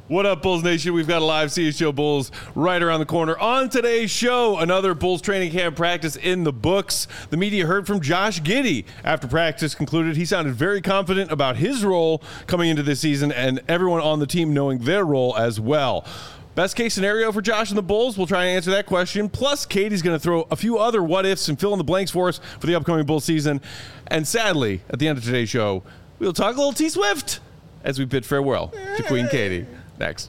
What up, Bulls Nation? We've got a live CHGO Bulls right around the corner. On today's show, another Bulls training camp practice in the books. The media heard from Josh Giddey. After practice concluded, he sounded very confident about his role coming into this season and everyone on the team knowing their role as well. Best case scenario for Josh and the Bulls? We'll try and answer that question. Plus, Katie's going to throw a few other what-ifs and fill in the blanks for us for the upcoming Bulls season. And sadly, at the end of today's show, we'll talk a little T-Swift as we bid farewell to Queen Katie. Next.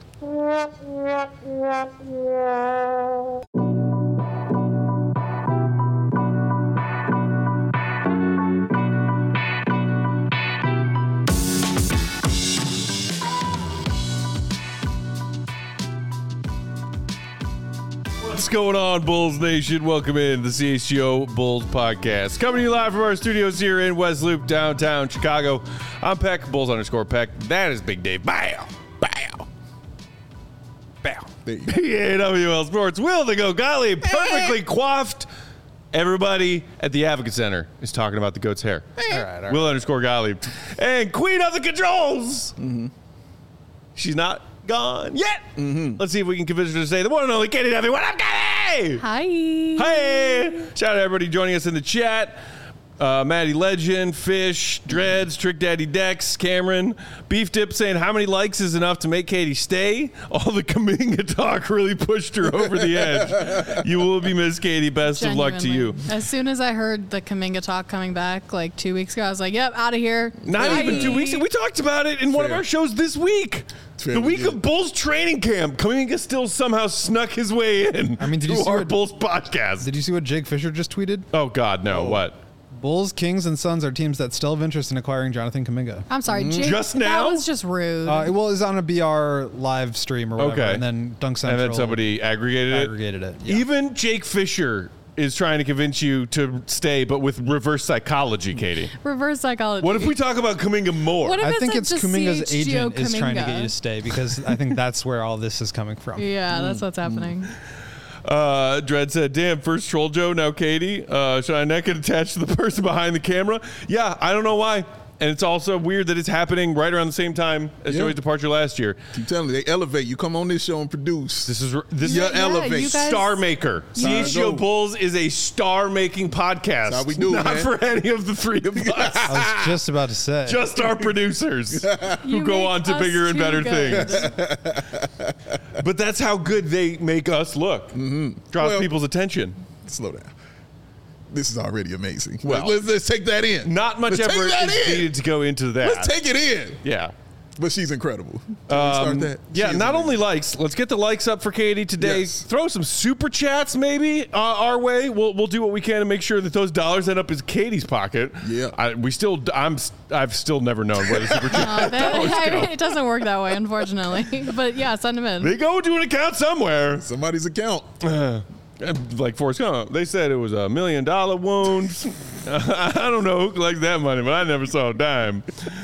What's going on, Bulls Nation? Welcome in to the CHGO Bulls Podcast. Coming to you live from our studios here in West Loop, downtown Chicago. I'm Peck, Bulls_Peck. That is Big Dave. Bow. Bow. Bow. PAWL Sports. Will the Go Golly, perfectly coiffed. Everybody at the Advocate Center is talking about the goat's hair. All right. Will_Golly. And Queen of the Controls. Mm-hmm. She's not gone yet. Mm-hmm. Let's see if we can convince her to say the one and only Katie Duffy. What up, Katie? Hi. Hey. Shout out to everybody joining us in the chat. Maddie Legend, Fish, Dreads, Trick Daddy Dex, Cameron, Beef Dip saying how many likes is enough to make Katie stay? All the Kuminga talk really pushed her over the edge. You will be missed, Katie. Best of luck to you. As soon as I heard the Kuminga talk coming back like 2 weeks ago, I was like, yep, out of here. Not even 2 weeks ago. We talked about it in one of our shows this week. The week of Bulls training camp. Kuminga still somehow snuck his way in. I mean, did you see our Bulls podcast? Did you see what Jake Fisher just tweeted? Oh, God, no. What? Bulls, Kings, and Suns are teams that still have interest in acquiring Jonathan Kuminga. I'm sorry, Jake. Just now? That was just rude. Well, it was on a BR live stream or whatever, and then Dunk Central. And then somebody aggregated it? Yeah. Even Jake Fisher is trying to convince you to stay, but with reverse psychology, Katie. Reverse psychology. What if we talk about Kuminga more? What if I think it's Kuminga's CHGO agent is trying to get you Kuminga? to stay, because I think that's where all this is coming from. Yeah, that's what's happening. Dredd said, damn, first Troll Joe, now Katie. Should I not get attached to the person behind the camera? Yeah, I don't know why. And it's also weird that it's happening right around the same time as Joey's departure last year. Keep telling you, they elevate. You come on this show and produce. This is your elevate. you guys- Star Maker. CHGO Bulls is a star-making podcast. That's how we do, Not man. for any of the three of us. I was just about to say. Just our producers who You go make on to us bigger and too better good. things. But that's how good they make us look. Mm-hmm. Draws Well- people's attention. Slow down. This is already amazing. Well, let's take that in. Not much Let's take effort that is in. needed to go into that. Let's take it in. Yeah. But she's incredible. Can we start that? Yeah, She is not amazing. only likes. Let's get the likes up for Katie today. Yes. Throw some super chats maybe our way. We'll do what we can to make sure that those dollars end up in Katie's pocket. Yeah. I've still never known where the super chat dollars go. It doesn't work that way, unfortunately. But yeah, send them in. They go into an account somewhere. Somebody's account. Like Forrest Gump. They said it was $1 million wound. I don't know who collects that money, but I never saw a dime.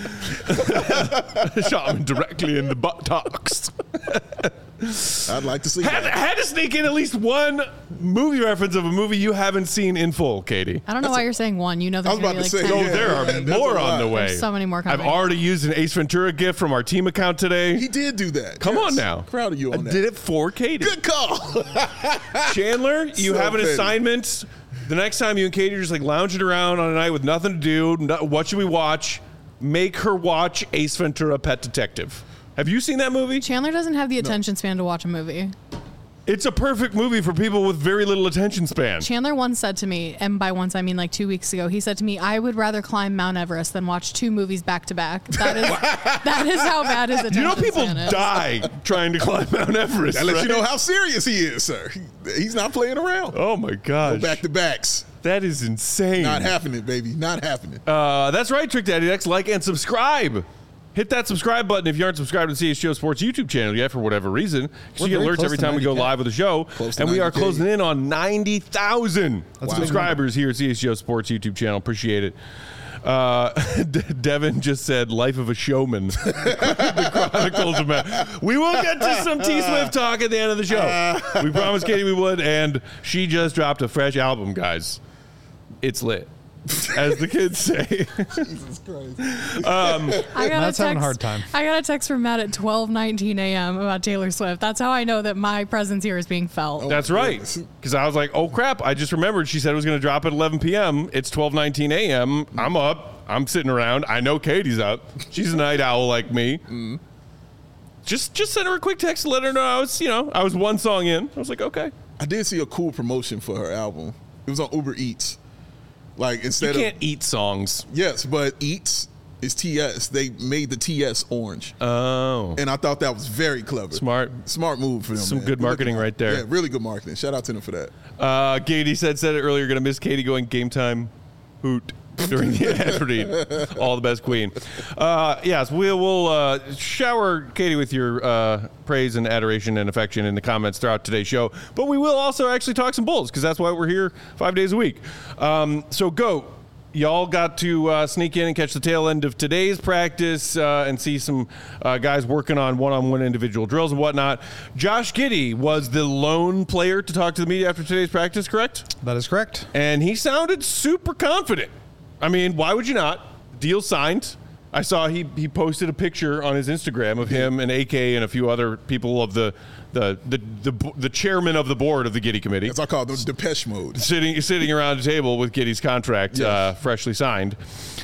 Shot him directly in the buttocks. I'd like to see Had that. to sneak in at least one movie reference of a movie you haven't seen in full, Katie. I don't know why you're saying one. You know I there's was going about to to be like say, 10. Oh, there are there's more a on the lot. way. There's so many more coming. I've already used an Ace Ventura gift from our team account today. He did do that. Come Yes. on now. Proud of you on I that. did it for Katie. Good call. Chandler, you So have an petty. assignment. The next time you and Katie are just like lounging around on a night with nothing to do, what should we watch? Make her watch Ace Ventura: Pet Detective. Have you seen that movie? Chandler doesn't have the attention span to watch a movie. It's a perfect movie for people with very little attention span. Chandler once said to me, and by once I mean like 2 weeks ago, he said to me, I would rather climb Mount Everest than watch 2 movies back to back. That is how bad his attention You know, people span is. die trying to climb Mount Everest. That lets right? you know how serious he is, sir. He's not playing around. Oh my gosh. Back to backs. That is insane. Not happening, baby. Not happening. That's right, Trick Daddy Dex. Like and subscribe. Hit that subscribe button if you aren't subscribed to the CHGO Sports YouTube channel yet for whatever reason. We're You get very alerts close every to time we go 90K. live with the show. Close to And we are 90K. closing in on 90,000 Wow. subscribers here at CHGO Sports YouTube channel. Appreciate it. Devin just said, "Life of a Showman." The Chronicles of Man. We will get to some T-Swift talk at the end of the show. We promised Katie we would, and she just dropped a fresh album, guys. It's lit. as the kids say. Jesus Christ. Matt's having a hard time. I got a text from Matt at 12:19 a.m. about Taylor Swift. That's how I know that my presence here is being felt. That's right. Because I was like, oh, crap. I just remembered she said it was going to drop at 11 p.m. It's 12:19 a.m. I'm up. I'm sitting around. I know Katie's up. She's a night owl like me. Just sent her a quick text to let her know I was one song in. I was like, okay. I did see a cool promotion for her album. It was on Uber Eats. Like instead You can't eat songs. yes, but Eats is TS. They made the TS orange. Oh. And I thought that was very clever. Smart move for them. Some man. good marketing right there. Yeah, really good marketing. Shout out to them for that. Katie said it earlier, going to miss Katie going game time hoot during the ad read. All the best, Queen. Yes, we'll shower Katie with your praise and adoration and affection in the comments throughout today's show. But we will also actually talk some Bulls because that's why we're here 5 days a week. So go. Y'all got to sneak in and catch the tail end of today's practice and see some guys working on one-on-one individual drills and whatnot. Josh Giddey was the lone player to talk to the media after today's practice, correct? That is correct. And he sounded super confident. I mean, why would you not? Deal signed. I saw he posted a picture on his Instagram of him and AK and a few other people of the chairman of the board of the Giddey committee. As I call them, Depeche Mode. Sitting around a table with Giddey's contract freshly signed.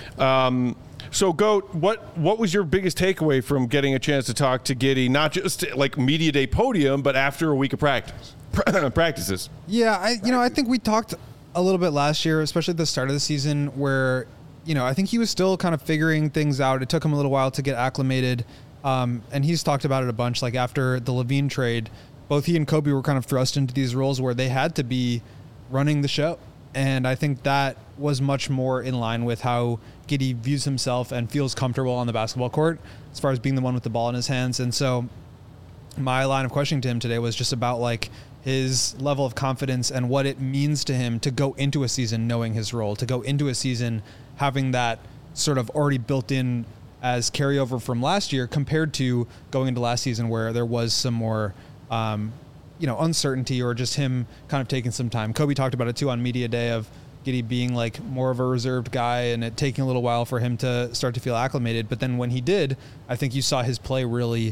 So, Goat, what was your biggest takeaway from getting a chance to talk to Giddey, not just like media day podium, but after a week of practices? Yeah, I think we talked a little bit last year, especially at the start of the season, where I think he was still kind of figuring things out. It took him a little while to get acclimated, and he's talked about it a bunch. Like after the Levine trade, both he and Kobe were kind of thrust into these roles where they had to be running the show, and I think that was much more in line with how Giddey views himself and feels comfortable on the basketball court as far as being the one with the ball in his hands. And so my line of questioning to him today was just about like his level of confidence and what it means to him to go into a season knowing his role, to go into a season having that sort of already built in as carryover from last year compared to going into last season where there was some more, uncertainty or just him kind of taking some time. Kobe talked about it too on media day of Giddey being like more of a reserved guy and it taking a little while for him to start to feel acclimated. But then when he did, I think you saw his play really,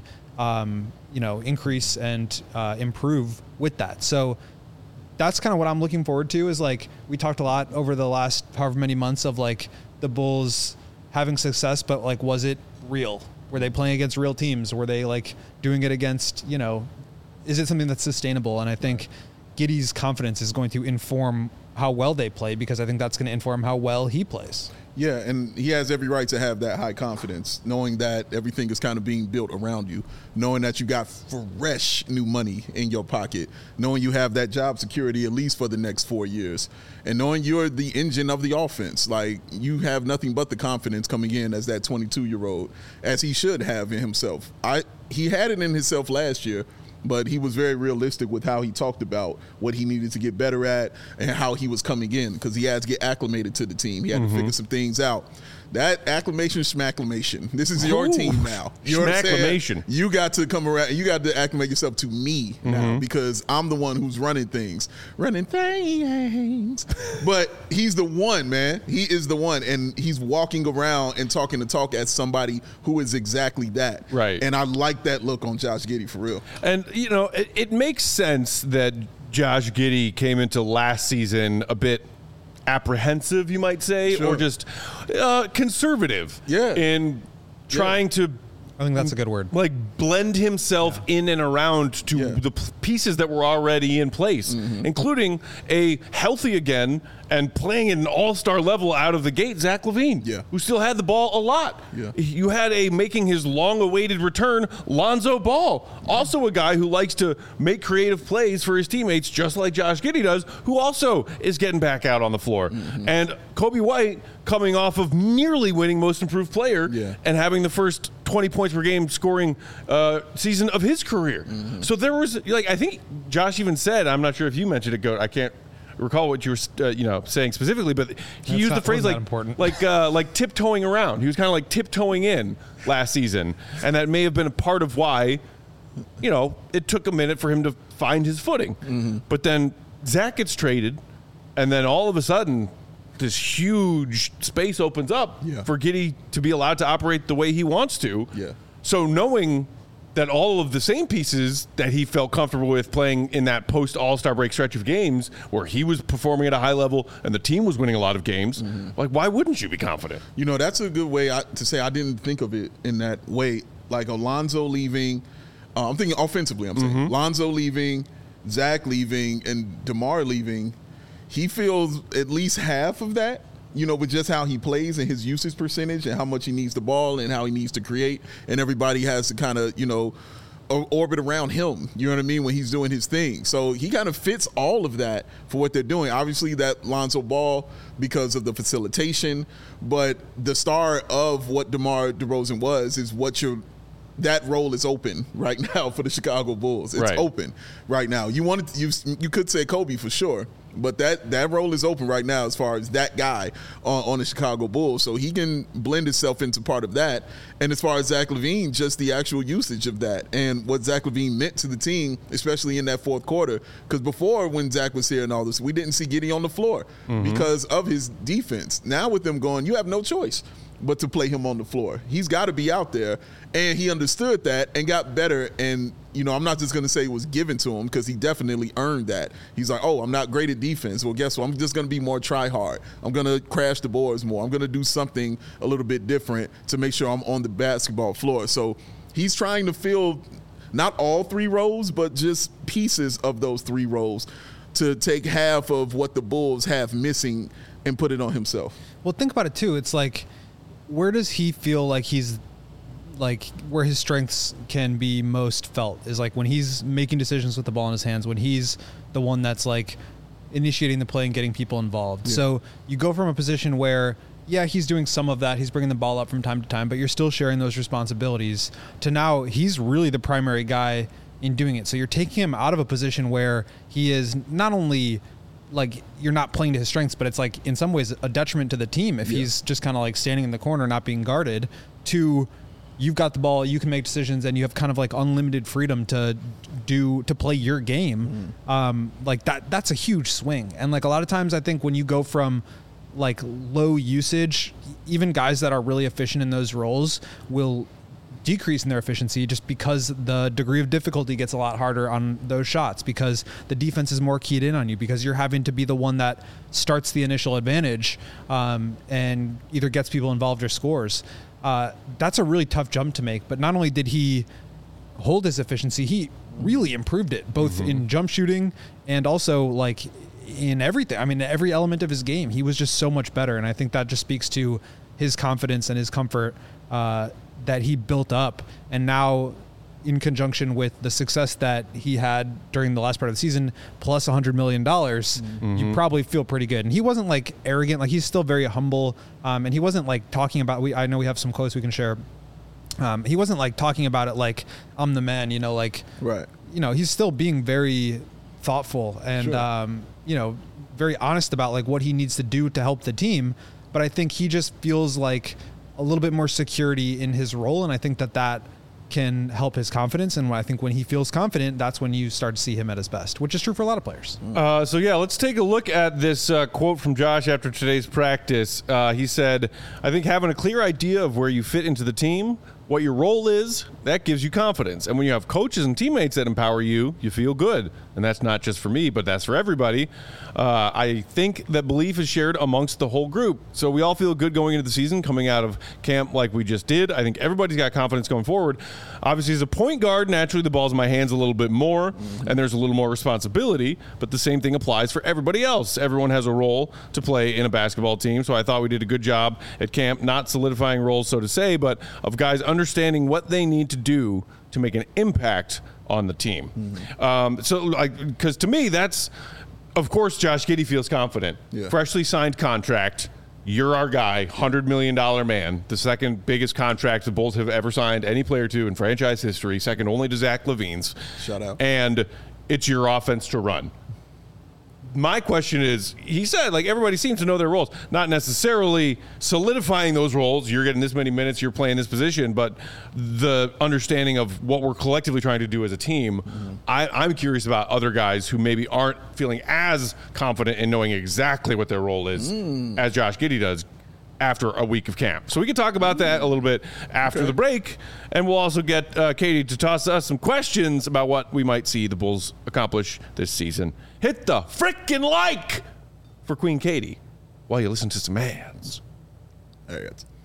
increase and improve with that. So that's kind of what I'm looking forward to is like, we talked a lot over the last however many months of like the Bulls having success, but like, was it real? Were they playing against real teams? Were they like doing it against, is it something that's sustainable? And I think Giddey's confidence is going to inform how well they play because I think that's going to inform how well he plays. Yeah, and he has every right to have that high confidence, knowing that everything is kind of being built around you, knowing that you got fresh new money in your pocket, knowing you have that job security at least for the next 4 years, and knowing you're the engine of the offense. Like, you have nothing but the confidence coming in as that 22-year-old, as he should have in himself. He had it in himself last year, but he was very realistic with how he talked about what he needed to get better at and how he was coming in because he had to get acclimated to the team. He had to figure some things out. That acclimation, schmacclimation. This is your team now. You Schmacclimation. You got to come around. You got to acclimate yourself to me now because I'm the one who's running things. But he's the one, man. He is the one. And he's walking around and talking the talk as somebody who is exactly that. Right. And I like that look on Josh Giddey for real. And, it makes sense that Josh Giddey came into last season a bit apprehensive, you might say, Sure. or just conservative in trying to I think that's a good word. like blend himself in and around to the pieces that were already in place, including a healthy again and playing at an all-star level out of the gate, Zach LaVine, who still had the ball a lot. Yeah. You had a making his long-awaited return, Lonzo Ball, also a guy who likes to make creative plays for his teammates, just like Josh Giddey does, who also is getting back out on the floor. And Kobe White coming off of nearly winning Most Improved Player and having the first 20 points per game scoring season of his career. So there was, I think Josh even said, I'm not sure if you mentioned it, Goat, I can't recall what you were saying specifically, but he used the phrase like tiptoeing around. He was kind of like tiptoeing in last season, and that may have been a part of why it took a minute for him to find his footing. But then Zach gets traded, and then all of a sudden this huge space opens up Yeah. for Giddey to be allowed to operate the way he wants to. Yeah. So knowing that all of the same pieces that he felt comfortable with playing in that post All-Star break stretch of games where he was performing at a high level and the team was winning a lot of games, like, why wouldn't you be confident? You know, that's a good way to say I didn't think of it in that way. Like Alonzo leaving, I'm thinking offensively, I'm saying. Lonzo leaving, Zach leaving, and DeMar leaving. He feels at least half of that, you know, with just how he plays and his usage percentage and how much he needs the ball and how he needs to create. And everybody has to kind of, you know, orbit around him, you know what I mean, when he's doing his thing. So he kind of fits all of that for what they're doing. Obviously, that Lonzo Ball because of the facilitation, but the star of what DeMar DeRozan was is what that role is open right now for the Chicago Bulls. It's open right now. You could say Kobe for sure, but that role is open right now as far as that guy on the Chicago Bulls. So he can blend himself into part of that. And as far as Zach LaVine, just the actual usage of that and what Zach LaVine meant to the team, especially in that fourth quarter. Because before, when Zach was here and all this, we didn't see Giddey on the floor because of his defense. Now with them going, you have no choice but to play him on the floor. He's got to be out there. And he understood that and got better. And, you know, I'm not just going to say it was given to him because he definitely earned that. He's like, oh, I'm not great at defense. Well, guess what? I'm just going to be more try hard. I'm going to crash the boards more. I'm going to do something a little bit different to make sure I'm on the basketball floor. So he's trying to fill not all three roles, but just pieces of those three roles to take half of what the Bulls have missing and put it on himself. Well, think about it, too. It's like, where does he feel like he's like where his strengths can be most felt is like when he's making decisions with the ball in his hands, when he's the one that's like initiating the play and getting people involved. Yeah. So you go from a position where, yeah, he's doing some of that. He's bringing the ball up from time to time, but you're still sharing those responsibilities to now he's really the primary guy in doing it. So you're taking him out of a position where he is not only like you're not playing to his strengths, but it's like in some ways a detriment to the team if he's just kind of like standing in the corner, not being guarded, to you've got the ball, you can make decisions, and you have kind of like unlimited freedom to play your game. Like that's a huge swing. And like a lot of times I think when you go from like low usage, even guys that are really efficient in those roles will decrease in their efficiency just because the degree of difficulty gets a lot harder on those shots because the defense is more keyed in on you because you're having to be the one that starts the initial advantage and either gets people involved or scores. That's a really tough jump to make. But not only did he hold his efficiency, he really improved it both in jump shooting and also like in everything. I mean, every element of his game, he was just so much better. And I think that just speaks to his confidence and his comfort that he built up. And now in conjunction with the success that he had during the last part of the season, plus $100 million, you probably feel pretty good. And he wasn't like arrogant, like he's still very humble. And he wasn't like talking about, I know we have some quotes we can share. He wasn't like talking about it like I'm the man, you know, like, you know, he's still being very thoughtful and, you know, very honest about like what he needs to do to help the team. But I think he just feels like a little bit more security in his role. And I think that can help his confidence. And I think when he feels confident, that's when you start to see him at his best, which is true for a lot of players. So yeah, let's take a look at this quote from Josh after today's practice. He said, I think having a clear idea of where you fit into the team, what your role is, that gives you confidence. And when you have coaches and teammates that empower you, you feel good. And that's not just for me, but that's for everybody. I think that belief is shared amongst the whole group. So we all feel good going into the season, coming out of camp like we just did. I think everybody's got confidence going forward. Obviously, as a point guard, naturally the ball's in my hands a little bit more, and there's a little more responsibility, but the same thing applies for everybody else. Everyone has a role to play in a basketball team, so I thought we did a good job at camp, not solidifying roles, so to say, but of guys understanding what they need to do to make an impact on the team. So, like, because to me, that's, of course, Josh Giddey feels confident. Freshly signed contract. You're our guy, $100 million man, the second biggest contract the Bulls have ever signed any player to in franchise history, second only to Zach LaVine's. Shout out. And it's your offense to run. My question is, he said, like, everybody seems to know their roles, not necessarily solidifying those roles. You're getting this many minutes, you're playing this position, but the understanding of what we're collectively trying to do as a team. I'm curious about other guys who maybe aren't feeling as confident in knowing exactly what their role is as Josh Giddey does after a week of camp. So we can talk about that a little bit after the break, and we'll also get Katie to toss us some questions about what we might see the Bulls accomplish this season. Hit the frickin' like for Queen Katie while you listen to some ads. There it is.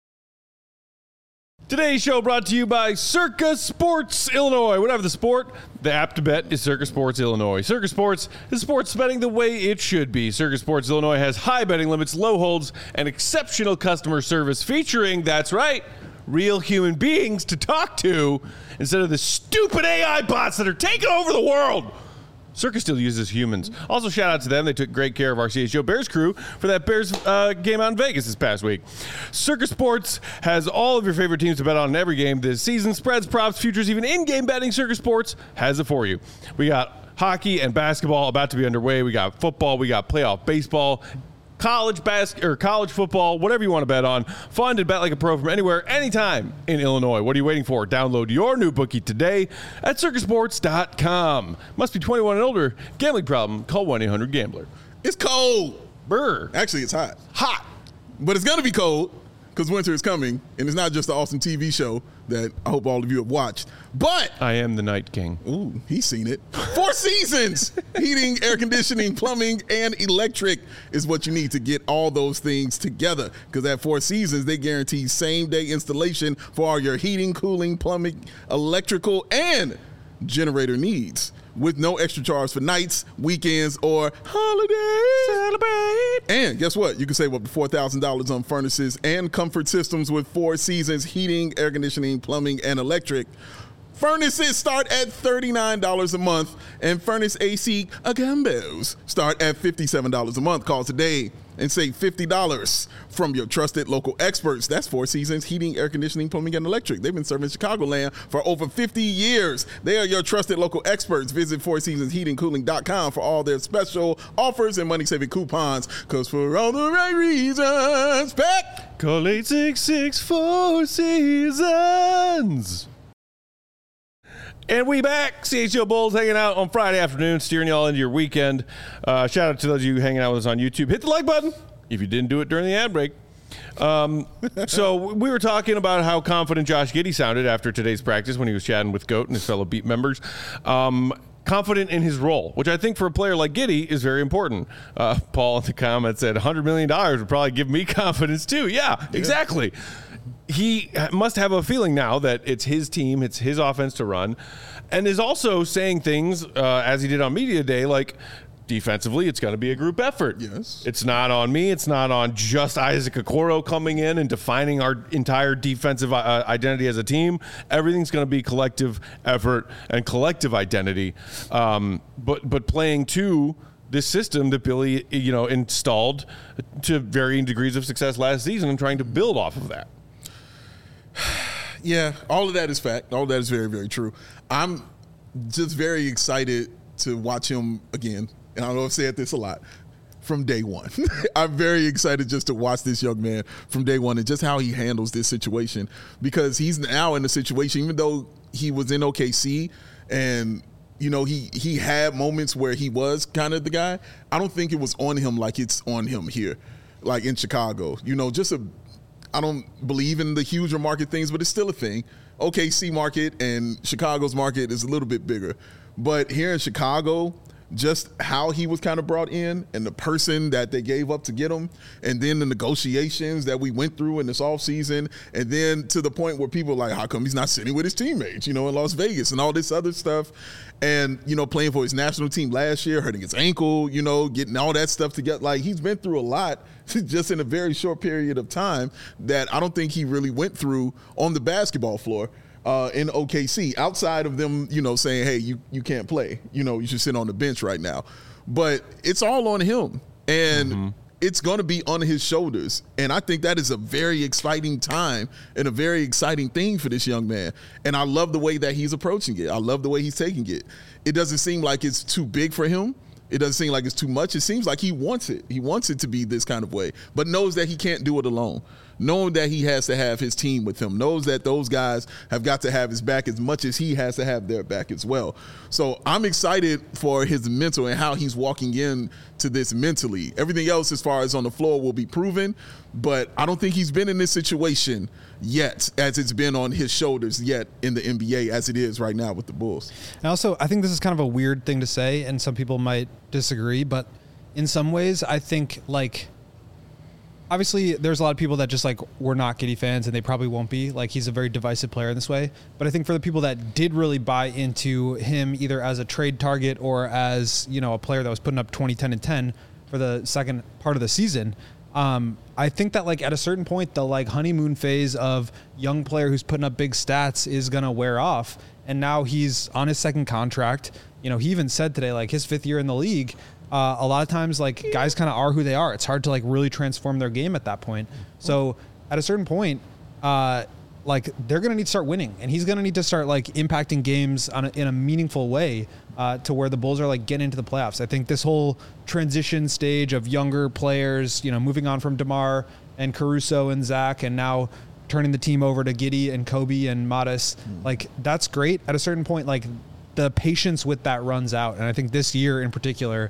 Today's show brought to you by Circa Sports Illinois. Whatever the sport, the app to bet is Circa Sports Illinois. Circa Sports is sports betting the way it should be. Circa Sports Illinois has high betting limits, low holds, and exceptional customer service featuring, that's right, real human beings to talk to instead of the stupid AI bots that are taking over the world. Circa still uses humans. Also, shout out to them. They took great care of our CHO Bears crew for that Bears game out in Vegas this past week. Circa Sports has all of your favorite teams to bet on in every game this season. Spreads, props, futures, even in-game betting. Circa Sports has it for you. We got hockey and basketball about to be underway. We got football. We got playoff baseball. College football, whatever you want to bet on. Fun to bet like a pro from anywhere, anytime in Illinois. What are you waiting for? Download your new bookie today at circusports.com. Must be 21 and older. Gambling problem? Call 1-800-GAMBLER. It's cold. Brr. Actually, it's hot. Hot. But it's going to be cold because winter is coming. And it's not just the awesome TV show that I hope all of you have watched. But I am the Night King. ooh, he's seen it. 4 seasons. Heating, air conditioning, plumbing, and electric is what you need to get all those things together. Because at 4 seasons, they guarantee same-day installation for all your heating, cooling, plumbing, electrical, and generator needs, with no extra charge for nights, weekends, or holidays. Celebrate. And guess what? You can save up to $4,000 on furnaces and comfort systems with 4 seasons heating, air conditioning, plumbing, and electric. Furnaces start at $39 a month, and furnace AC combos start at $57 a month. Call today and save $50 from your trusted local experts. That's 4 seasons heating, air conditioning, plumbing, and electric. They've been serving Chicagoland for over 50 years. They are your trusted local experts. Visit 4seasonsheatingcooling.com for all their special offers and money-saving coupons. Because for all the right reasons, Pat, call 866-4 Seasons. And we back. CHO Bulls hanging out on Friday afternoon, steering y'all into your weekend. Shout out to those of you hanging out with us on YouTube. Hit the like button if you didn't do it during the ad break. So we were talking about how confident Josh Giddey sounded after today's practice when he was chatting with Goat and his fellow beat members. Confident in his role, which I think for a player like Giddey is very important. Paul in the comments said $100 million would probably give me confidence too. Yeah, exactly. He must have a feeling now that it's his team, it's his offense to run, and is also saying things, as he did on Media Day, like defensively, it's going to be a group effort. Yes. It's not on me. It's not on just Isaac Okoro coming in and defining our entire defensive identity as a team. Everything's going to be collective effort and collective identity, but playing to this system that Billy, installed to varying degrees of success last season and trying to build off of that. Yeah, all of that is fact. All of that is very, very true. I'm just very excited to watch him again. And I know I've said this a lot, from day one. I'm very excited just to watch this young man from day one and just how he handles this situation. Because he's now in a situation, even though he was in OKC and he had moments where he was kind of the guy, I don't think it was on him like it's on him here, like in Chicago. I don't believe in the huger market things, but it's still a thing. OKC market and Chicago's market is a little bit bigger. But here in Chicago, just how he was kind of brought in and the person that they gave up to get him, and then the negotiations that we went through in this offseason, and then to the point where people are like, how come he's not sitting with his teammates, in Las Vegas and all this other stuff. And, playing for his national team last year, hurting his ankle, getting all that stuff together. Like, he's been through a lot just in a very short period of time that I don't think he really went through on the basketball floor in OKC, outside of them, saying, hey, you can't play. You should sit on the bench right now. But it's all on him. And it's going to be on his shoulders. And I think that is a very exciting time and a very exciting thing for this young man. And I love the way that he's approaching it. I love the way he's taking it. It doesn't seem like it's too big for him, It doesn't seem like it's too much. It seems like he wants it. He wants it to be this kind of way, but knows that he can't do it alone. Knowing that he has to have his team with him, knows that those guys have got to have his back as much as he has to have their back as well. So I'm excited for his mental and how he's walking in to this mentally. Everything else as far as on the floor will be proven, but I don't think he's been in this situation yet as it's been on his shoulders yet in the NBA as it is right now with the Bulls. And also, I think this is kind of a weird thing to say, and some people might disagree, but in some ways, I think, like, obviously, there's a lot of people that just, like, were not Giddey fans, and they probably won't be. Like, he's a very divisive player in this way. But I think for the people that did really buy into him either as a trade target or as, you know, a player that was putting up 20, 10, and 10 for the second part of the season, I think that, like, at a certain point, the, like, honeymoon phase of young player who's putting up big stats is going to wear off. And now he's on his second contract. You know, he even said today, like, his 5th year in the league, a lot of times, like, guys kind of are who they are. It's hard to, like, really transform their game at that point. So at a certain point, like, they're going to need to start winning, and he's going to need to start, like, impacting games in a meaningful way to where the Bulls are, like, getting into the playoffs. I think this whole transition stage of younger players, you know, moving on from DeMar and Caruso and Zach, and now turning the team over to Giddey and Kobe and Mattis, like, that's great. At a certain point, like, the patience with that runs out. And I think this year in particular,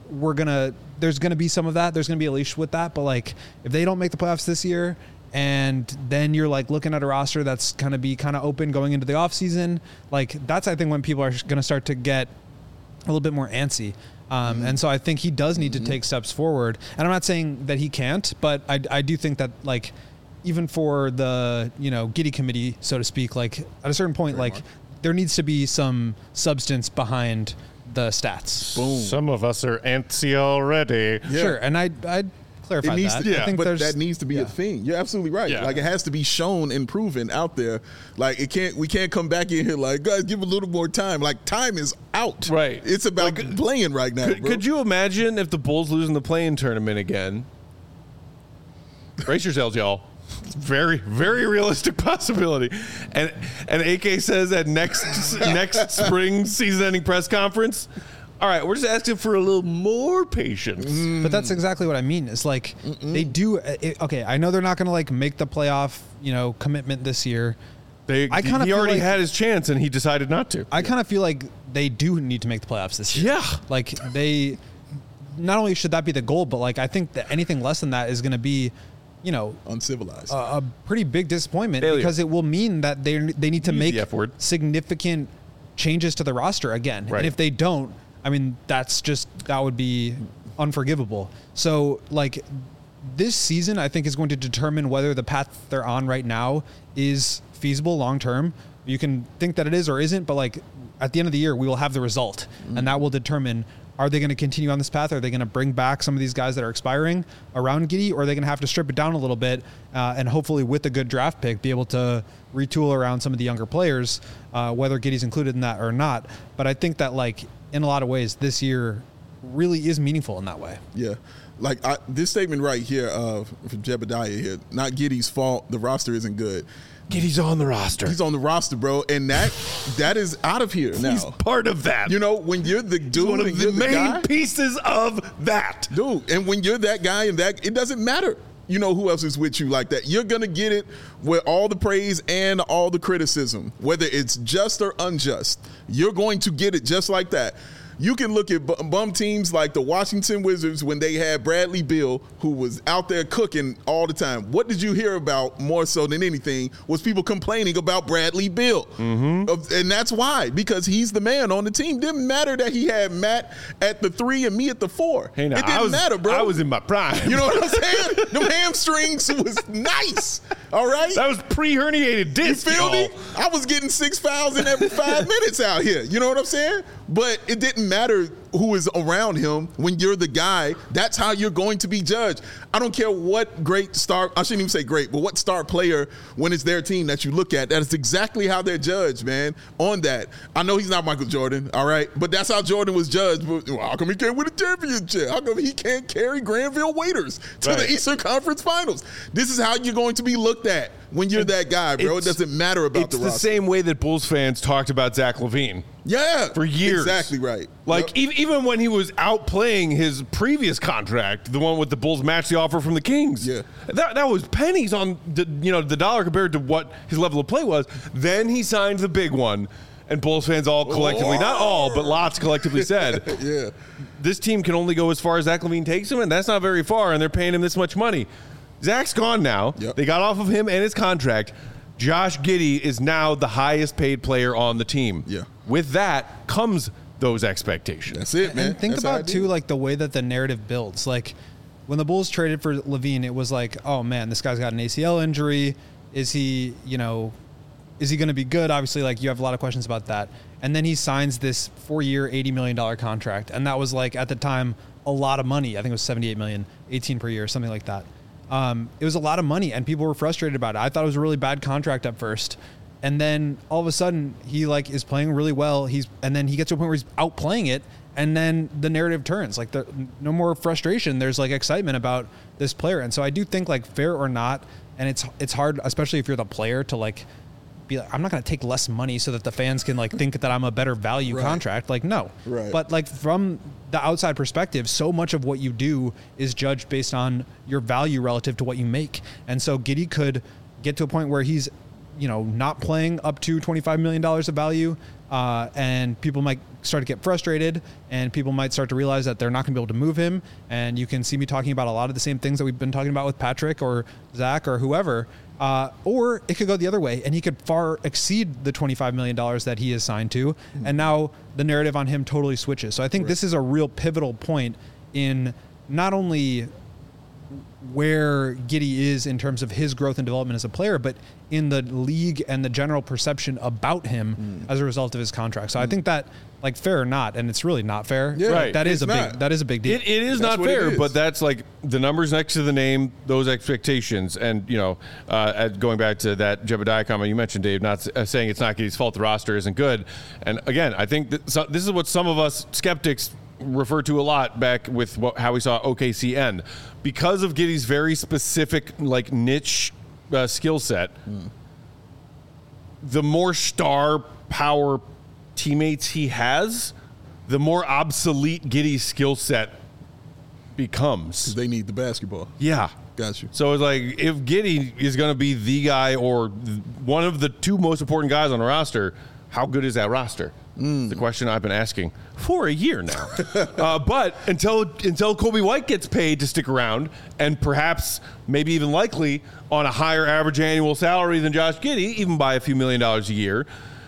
there's gonna be some of that. There's gonna be a leash with that. But, like, if they don't make the playoffs this year, and then you're, like, looking at a roster that's gonna be kind of open going into the offseason, like, that's, I think, when people are gonna start to get a little bit more antsy. And so I think he does need to take steps forward. And I'm not saying that he can't, but I do think that, like, even for the, you know, Giddey committee, so to speak, like, at a certain point, like, there needs to be some substance behind the stats. Boom. Some of us are antsy already. Yeah. Sure, and I'd clarify It needs that. to, I think but there's, that needs to be a thing. You're absolutely right. Yeah. Like, it has to be shown and proven out there. Like, we can't come back in here like, guys, give a little more time. Like, time is out. Right. It's about playing right now. Could you imagine if the Bulls lose in the play-in tournament again? Brace yourselves, y'all. Very, very realistic possibility. And AK says at next spring season-ending press conference, all right, we're just asking for a little more patience. But that's exactly what I mean. It's like they do. Okay, I know they're not going to, like, make the playoff, you know, commitment this year. He already had his chance and he decided not to. I kind of feel like they do need to make the playoffs this year. Yeah. Like, they not only should that be the goal, but, like, I think that anything less than that is going to be, you know, uncivilized, a pretty big disappointment. Failure. Because it will mean that they need to make the F word. significant changes to the roster again. Right. And if they don't, I mean, that would be unforgivable. So, like, this season, I think, is going to determine whether the path they're on right now is feasible long term. You can think that it is or isn't, but, like, at the end of the year, we will have the result, and that will determine, are they going to continue on this path? Are they going to bring back some of these guys that are expiring around Giddey, or are they going to have to strip it down a little bit and hopefully with a good draft pick be able to retool around some of the younger players, whether Giddey's included in that or not? But I think that, like, in a lot of ways, this year really is meaningful in that way. Yeah. Like, this statement right here from Jebediah here, not Giddey's fault, the roster isn't good. Giddey's on the roster. He's on the roster, bro, and that is out of here now. He's part of that. You know, when you're the dude, one of and the you're main guy, pieces of that. dude, and when you're that guy and that, it doesn't matter. You know who else is with you like that. You're gonna get it with all the praise and all the criticism, whether it's just or unjust. You're going to get it just like that. You can look at bum teams like the Washington Wizards when they had Bradley Beal, who was out there cooking all the time. What did you hear about more so than anything was people complaining about Bradley Beal. And that's why, because he's the man on the team. Didn't matter that he had Matt at the 3 and me at the 4. Hey, now, it didn't matter, bro. I was in my prime. You know what I'm saying? Them hamstrings was nice. All right? That was pre-herniated disc. You feel me? y'all. I was getting 6 fouls in every 5 minutes out here. You know what I'm saying? But it didn't matter who is around him when you're the guy. That's how you're going to be judged. I don't care what great star, I shouldn't even say great, but what star player when it's their team that you look at, that is exactly how they're judged, man, on that. I know he's not Michael Jordan, all right? But that's how Jordan was judged. But how come he can't win a championship? How come he can't carry Granville Waiters to the Eastern Conference Finals? This is how you're going to be looked at when you're that guy, bro. It doesn't matter about the roster. It's the same way that Bulls fans talked about Zach LaVine. Yeah. For years. Exactly right. Like, even when he was outplaying his previous contract, the one with the Bulls matched the offer from the Kings. Yeah. That was pennies on the dollar compared to what his level of play was. Then he signed the big one, and Bulls fans all collectively, not all, but lots collectively said, yeah, this team can only go as far as Zach LaVine takes him, and that's not very far, and they're paying him this much money. Zach's gone now. Yep. They got off of him and his contract. Josh Giddey is now the highest paid player on the team. Yeah. With that comes those expectations. That's it, man. And think That's how I about do too, it. like the way that the narrative builds. Like when the Bulls traded for LaVine, it was like, oh man, this guy's got an ACL injury. Is he going to be good? Obviously, like you have a lot of questions about that. And then he signs this 4-year, $80 million contract, and that was like at the time a lot of money. I think it was $78 million, 18 per year, something like that. It was a lot of money, and people were frustrated about it. I thought it was a really bad contract at first. And then all of a sudden he like is playing really well. And then he gets to a point where he's outplaying it. And then the narrative turns, like no more frustration. There's like excitement about this player. And so I do think, like, fair or not, and it's hard, especially if you're the player, to like be like, I'm not going to take less money so that the fans can like think that I'm a better value contract. Like, no. Right. But like from the outside perspective, so much of what you do is judged based on your value relative to what you make. And so Giddey could get to a point where he's, not playing up to $25 million of value, and people might start to get frustrated, and people might start to realize that they're not going to be able to move him. And you can see me talking about a lot of the same things that we've been talking about with Patrick or Zach or whoever. Or it could go the other way, and he could far exceed the $25 million that he is signed to, and now the narrative on him totally switches. So I think this is a real pivotal point in not only where Giddey is in terms of his growth and development as a player, but in the league and the general perception about him as a result of his contract. So I think that, like, fair or not, and it's really not fair. Yeah, right. That is a not. big deal. It is That's not what it fair, is. but that's like the numbers next to the name, those expectations. And, going back to that Jebediah comment you mentioned, Dave, not saying it's not Giddey's fault the roster isn't good. And again, I think that this is what some of us skeptics refer to a lot back with how we saw OKC end. Because of Giddey's very specific, like, niche skill set, the more star power teammates he has, the more obsolete Giddey's skill set becomes. They need the basketball. Yeah. Got you. So it's like, if Giddey is going to be the guy or one of the two most important guys on the roster, how good is that roster? It's the question I've been asking for a year now. But until Kobe White gets paid to stick around, and perhaps maybe even likely on a higher average annual salary than Josh Giddey, even by a few $1 million a year,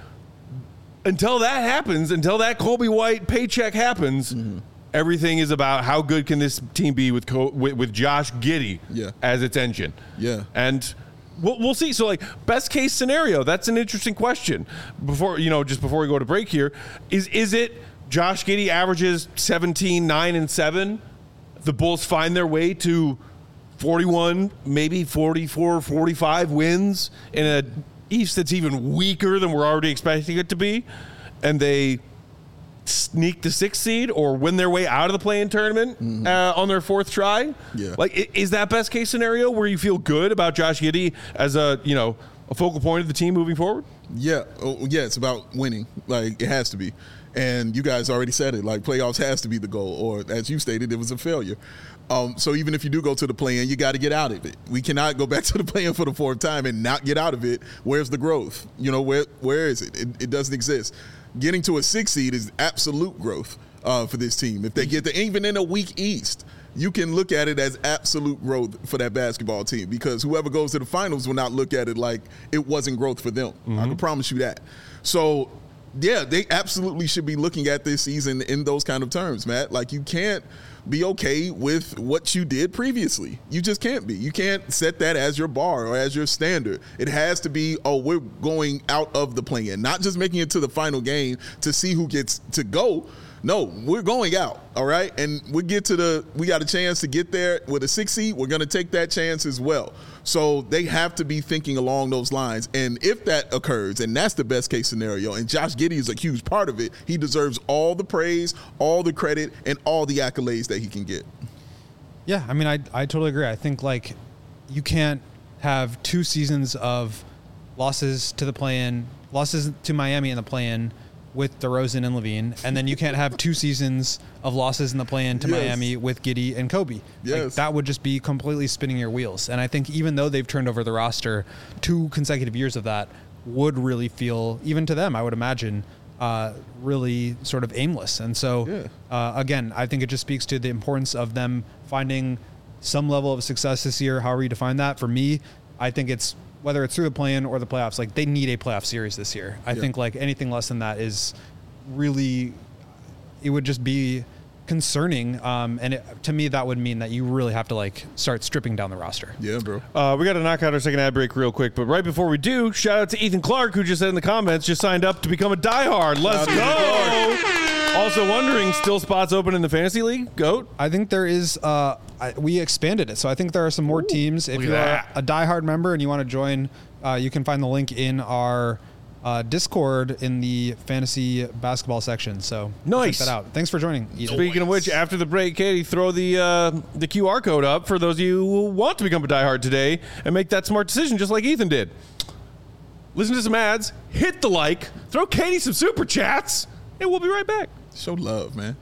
until that happens, until that Kobe White paycheck happens, everything is about how good can this team be with Josh Giddey as its engine. Yeah. And we'll see. So, like, best case scenario, that's an interesting question. Before we go to break here, is it Josh Giddey averages 17, 9, and 7? The Bulls find their way to 41, maybe 44, 45 wins in a East that's even weaker than we're already expecting it to be, and they sneak the 6th seed or win their way out of the play-in tournament on their 4th try. Yeah. Like, is that best case scenario where you feel good about Josh Giddey as a focal point of the team moving forward? Yeah. Yeah, it's about winning. Like, it has to be. And you guys already said it. Like, playoffs has to be the goal. Or, as you stated, it was a failure. So even if you do go to the play-in, you got to get out of it. We cannot go back to the play-in for the 4th time and not get out of it. Where's the growth? Where is it? It doesn't exist. Getting to a 6th seed is absolute growth for this team. If they get there, even in a weak East, you can look at it as absolute growth for that basketball team, because whoever goes to the finals will not look at it like it wasn't growth for them. I can promise you that. So, yeah, they absolutely should be looking at this season in those kind of terms, Matt. Like, you can't be okay with what you did previously. You just can't be. You can't set that as your bar or as your standard. It has to be, we're going out of the play-in, not just making it to the final game to see who gets to go. No, we're going out, all right? And we got a chance to get there with a 6th seed. We're going to take that chance as well. So they have to be thinking along those lines. And if that occurs, and that's the best case scenario, and Josh Giddey is a huge part of it, he deserves all the praise, all the credit, and all the accolades that he can get. Yeah, I mean, I totally agree. I think, like, you can't have 2 seasons of losses to the play-in, losses to Miami in the play-in with DeRozan and Levine, and then you can't have 2 seasons of losses in the play-in to Miami with Giddey and Kobe. Yes. Like, that would just be completely spinning your wheels. And I think even though they've turned over the roster, 2 consecutive years of that would really feel, even to them, I would imagine, really sort of aimless. And so, again, I think it just speaks to the importance of them finding some level of success this year, however you define that. For me, I think it's, whether it's through the play-in or the playoffs, like, they need a playoff series this year. I think like anything less than that is really, it would just be concerning. And to me, that would mean that you really have to like start stripping down the roster. Yeah, bro. We got to knock out our second ad break real quick, but right before we do, shout out to Ethan Clark, who just said in the comments, just signed up to become a diehard. Let's go. Also wondering, still spots open in the fantasy league? Goat? I think there is, we expanded it. So I think there are some more teams. If look at you're that. a diehard member and you want to join, you can find the link in our Discord in the fantasy basketball section. So Nice. check that out. Thanks for joining, Ethan. Speaking of which, after the break, Katie, throw the QR code up for those of you who want to become a diehard today and make that smart decision just like Ethan did. Listen to some ads, hit the like, throw Katie some super chats, and we'll be right back. Show love, man.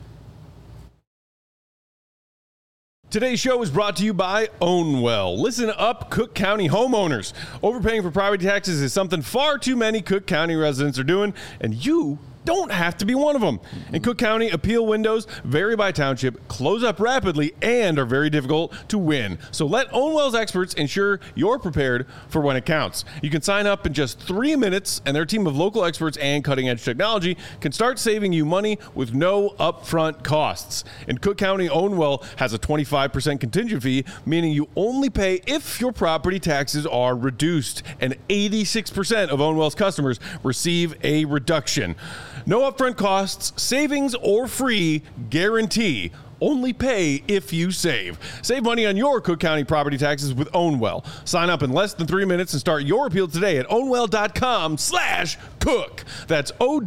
Today's show is brought to you by Ownwell. Listen up, Cook County homeowners. Overpaying for property taxes is something far too many Cook County residents are doing, and you don't have to be one of them. In Cook County, appeal windows vary by township, close up rapidly, and are very difficult to win. So let Ownwell's experts ensure you're prepared for when it counts. You can sign up in just 3 minutes, and their team of local experts and cutting-edge technology can start saving you money with no upfront costs. In Cook County, Ownwell has a 25% contingent fee, meaning you only pay if your property taxes are reduced, and 86% of Ownwell's customers receive a reduction. No upfront costs, savings, or free guarantee. Only pay if you save. Save money on your Cook County property taxes with Ownwell. Sign up in less than 3 minutes and start your appeal today at ownwell.com/cook. That's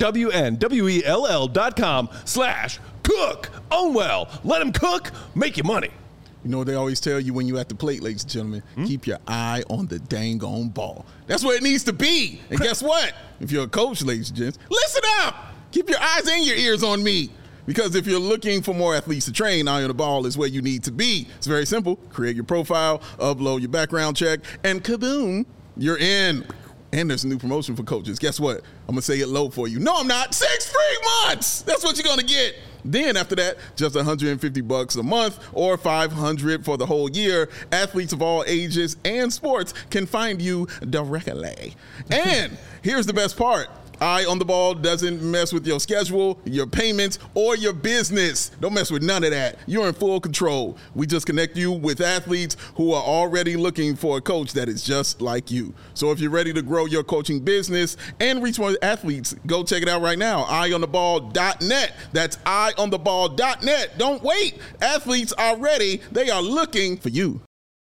OWNWELL.com/cook. Ownwell. Let them cook, make you money. You know what they always tell you when you're at the plate, ladies and gentlemen? Keep your eye on the dang on ball. That's where it needs to be. And guess what? If you're a coach, ladies and gents, listen up. Keep your eyes and your ears on me. Because if you're looking for more athletes to train, Eye on the Ball is where you need to be. It's very simple. Create your profile, upload your background check, and kaboom, you're in. And there's a new promotion for coaches. Guess what? I'm going to say it low for you. No, I'm not. 6 free months. That's what you're going to get. Then after that, just $150 a month or $500 for the whole year. Athletes of all ages and sports can find you directly. And here's the best part. Eye on the Ball doesn't mess with your schedule, your payments, or your business. Don't mess with none of that. You're in full control. We just connect you with athletes who are already looking for a coach that is just like you. So if you're ready to grow your coaching business and reach more athletes, go check it out right now. EyeOnTheBall.net. That's EyeOnTheBall.net. Don't wait. Athletes are ready. They are looking for you.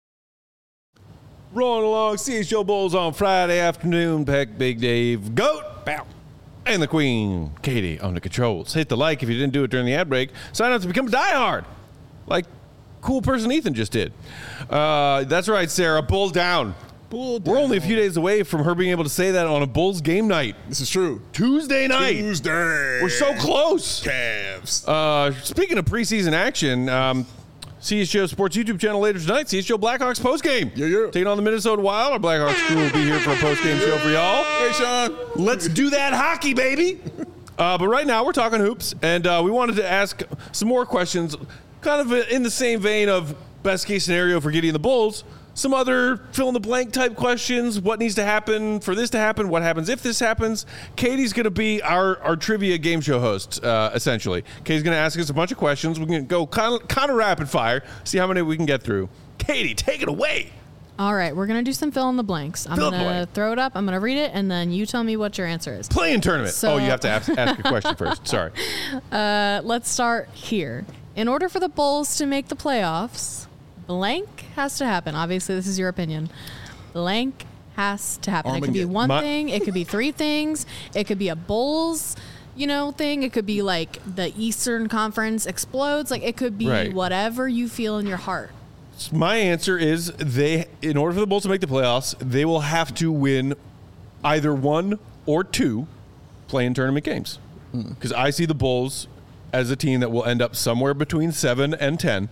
Rolling along, CHO Bulls on Friday afternoon. Peck, Big Dave, Goat, Bow, and the Queen, Katie, on the controls. Hit the like if you didn't do it during the ad break. Sign up to become a diehard, like cool person Ethan just did. That's right, Sarah. Bull down. Bull down. We're only a few days away from her being able to say that on a Bulls game night. This is true. Tuesday night. Tuesday. We're so close. Cavs. Speaking of preseason action, CHGO Sports YouTube channel later tonight, CHGO Blackhawks postgame. Yeah. Taking on the Minnesota Wild. Our Blackhawks crew will be here for a postgame show for y'all. Hey, Sean. Let's do that hockey, baby. But right now, we're talking hoops, and we wanted to ask some more questions, kind of in the same vein of best case scenario for Giddey and the Bulls. Some other fill-in-the-blank type questions. What needs to happen for this to happen? What happens if this happens? Katie's going to be our trivia game show host, essentially. Katie's going to ask us a bunch of questions. We're going to go kind of rapid fire, see how many we can get through. Katie, take it away. All right, we're going to do some fill in the blanks. I'm going to throw it up. I'm going to read it, and then you tell me what your answer is. Play-in tournament. So, you have to ask a question first. Sorry. Let's start here. In order for the Bulls to make the playoffs, blank has to happen. Obviously, this is your opinion. Blank has to happen. It could be one thing. It could be 3 things. It could be a Bulls, thing. It could be like the Eastern Conference explodes. Like, it could be whatever you feel in your heart. My answer is in order for the Bulls to make the playoffs, they will have to win either 1 or 2 play-in tournament games. Because I see the Bulls as a team that will end up somewhere between 7 and 10.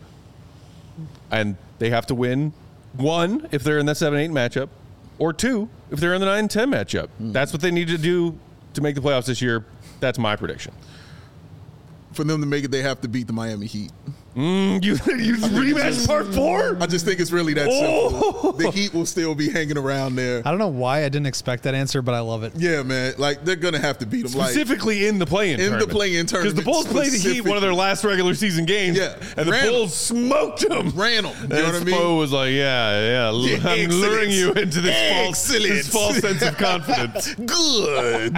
And they have to win 1 if they're in the 7-8 matchup, or 2 if they're in the 9-10 matchup. That's what they need to do to make the playoffs this year. That's my prediction. For them to make it, they have to beat the Miami Heat. You rematch part 4? I just think it's really that simple. The Heat will still be hanging around there. I don't know why I didn't expect that answer, but I love it. Yeah, man. Like, they're going to have to beat them. Specifically in the play-in tournament. In the play-in tournament. Because the Bulls played the Heat one of their last regular season games. Yeah. And the Bulls smoked them. Ran them. You know what I mean? Spo was like, yeah. I'm luring you into this false sense of confidence. Good.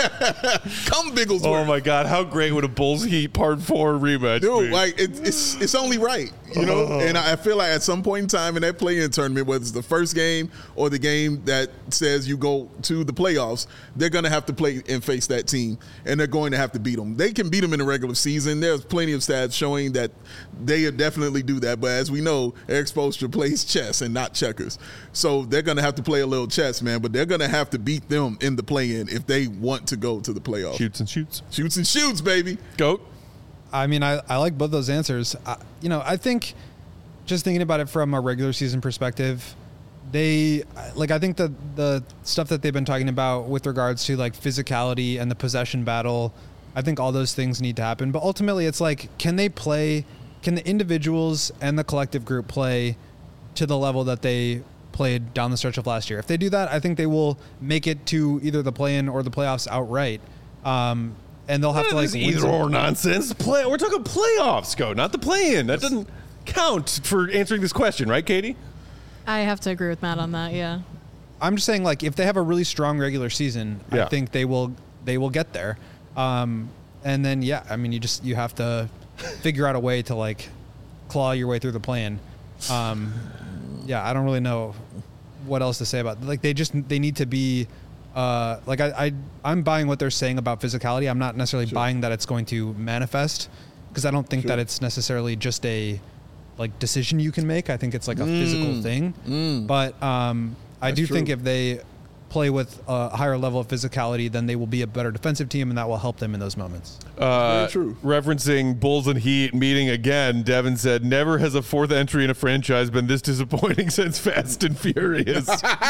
Come, Bigglesworth. Oh, my God. How great would a Bulls Heat part 4 rematch Dude, be? like, it's only right, you know? And I feel like at some point in time in that play-in tournament, whether it's the first game or the game that says you go to the playoffs, they're going to have to play and face that team, and they're going to have to beat them. They can beat them in the regular season. There's plenty of stats showing that they definitely do that. But as we know, Eric Spoelstra plays chess and not checkers. So they're going to have to play a little chess, man, but they're going to have to beat them in the play-in if they want to go to the playoffs. Shoots and shoots. Shoots and shoots, baby. Goat. I mean, I like both those answers. I think just thinking about it from a regular season perspective, I think the stuff that they've been talking about with regards to like physicality and the possession battle, I think all those things need to happen. But ultimately, it's like, can the individuals and the collective group play to the level that they played down the stretch of last year? If they do that, I think they will make it to either the play-in or the playoffs outright. And they'll have to like either or nonsense. We're talking playoffs, not the play-in. That doesn't count for answering this question, right, Katie? I have to agree with Matt on that. Yeah. I'm just saying, like, if they have a really strong regular season, I think they will get there. And then, I mean, you have to figure out a way to like claw your way through the play-in. I don't really know what else to say about it. Like they need to be. I'm buying what they're saying about physicality. I'm not necessarily buying that it's going to manifest, because I don't think that it's necessarily just a like decision you can make. I think it's like a physical thing. But I do think if they play with a higher level of physicality, then they will be a better defensive team, and that will help them in those moments. Very true. Referencing Bulls and Heat meeting again, Devin said, never has a fourth entry in a franchise been this disappointing since Fast and Furious.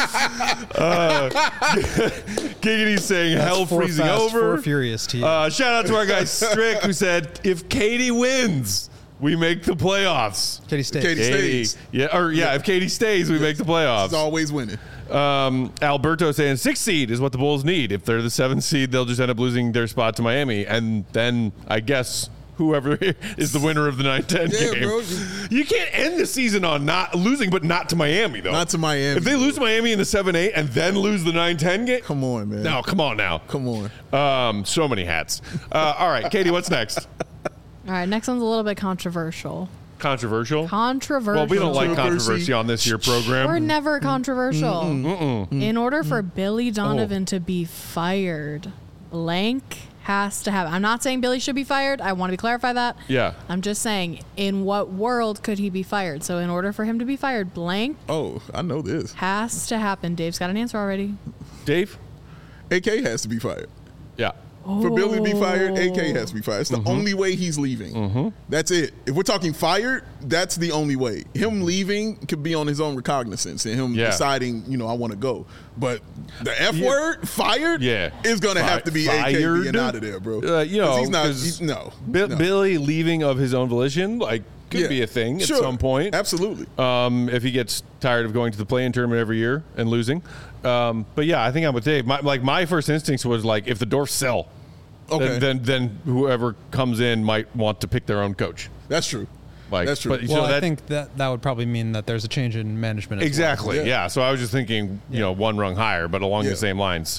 Giggity's saying hell freezing over. Four Furious team. Shout out to our guy Strick, who said, if Katie wins, we make the playoffs. Katie stays. Katie stays. If Katie stays, we make the playoffs. She's always winning. Alberto saying 6th seed is what the Bulls need. If they're the 7th seed, they'll just end up losing their spot to Miami. And then I guess whoever is the winner of the 9-10 game. Bro. You can't end the season on not losing, but not to Miami, though. Not to Miami. If they lose to Miami in the 7-8 and then lose the 9-10 game. Come on, man. No, come on now. Come on. So many hats. All right, Katie, what's next? All right, next one's a little bit controversial. Controversial? Controversial. Well, we don't like controversy on this here program. We're never controversial. In order for Billy Donovan to be fired, blank has to happen. I'm not saying Billy should be fired. I want to clarify that. Yeah. I'm just saying, in what world could he be fired? So in order for him to be fired, blank Oh, I know this. has to happen. Dave's got an answer already. Dave? AK has to be fired. Yeah. For Billy to be fired, AK has to be fired. It's the only way he's leaving. That's it. If we're talking fired, that's the only way. Him leaving could be on his own recognizance and him deciding, I want to go. But the F word, fired, is going to have to be AK being out of there, bro. He's not. Billy leaving of his own volition, could be a thing at some point. Absolutely. If he gets tired of going to the play-in tournament every year and losing. But yeah, I think I'm with Dave. My first instinct was if the Dwarfs sell, then whoever comes in might want to pick their own coach. That's true. That's true. But, I think that would probably mean that there's a change in management. Exactly. Well. Yeah. So I was just thinking, one rung higher, but along the same lines.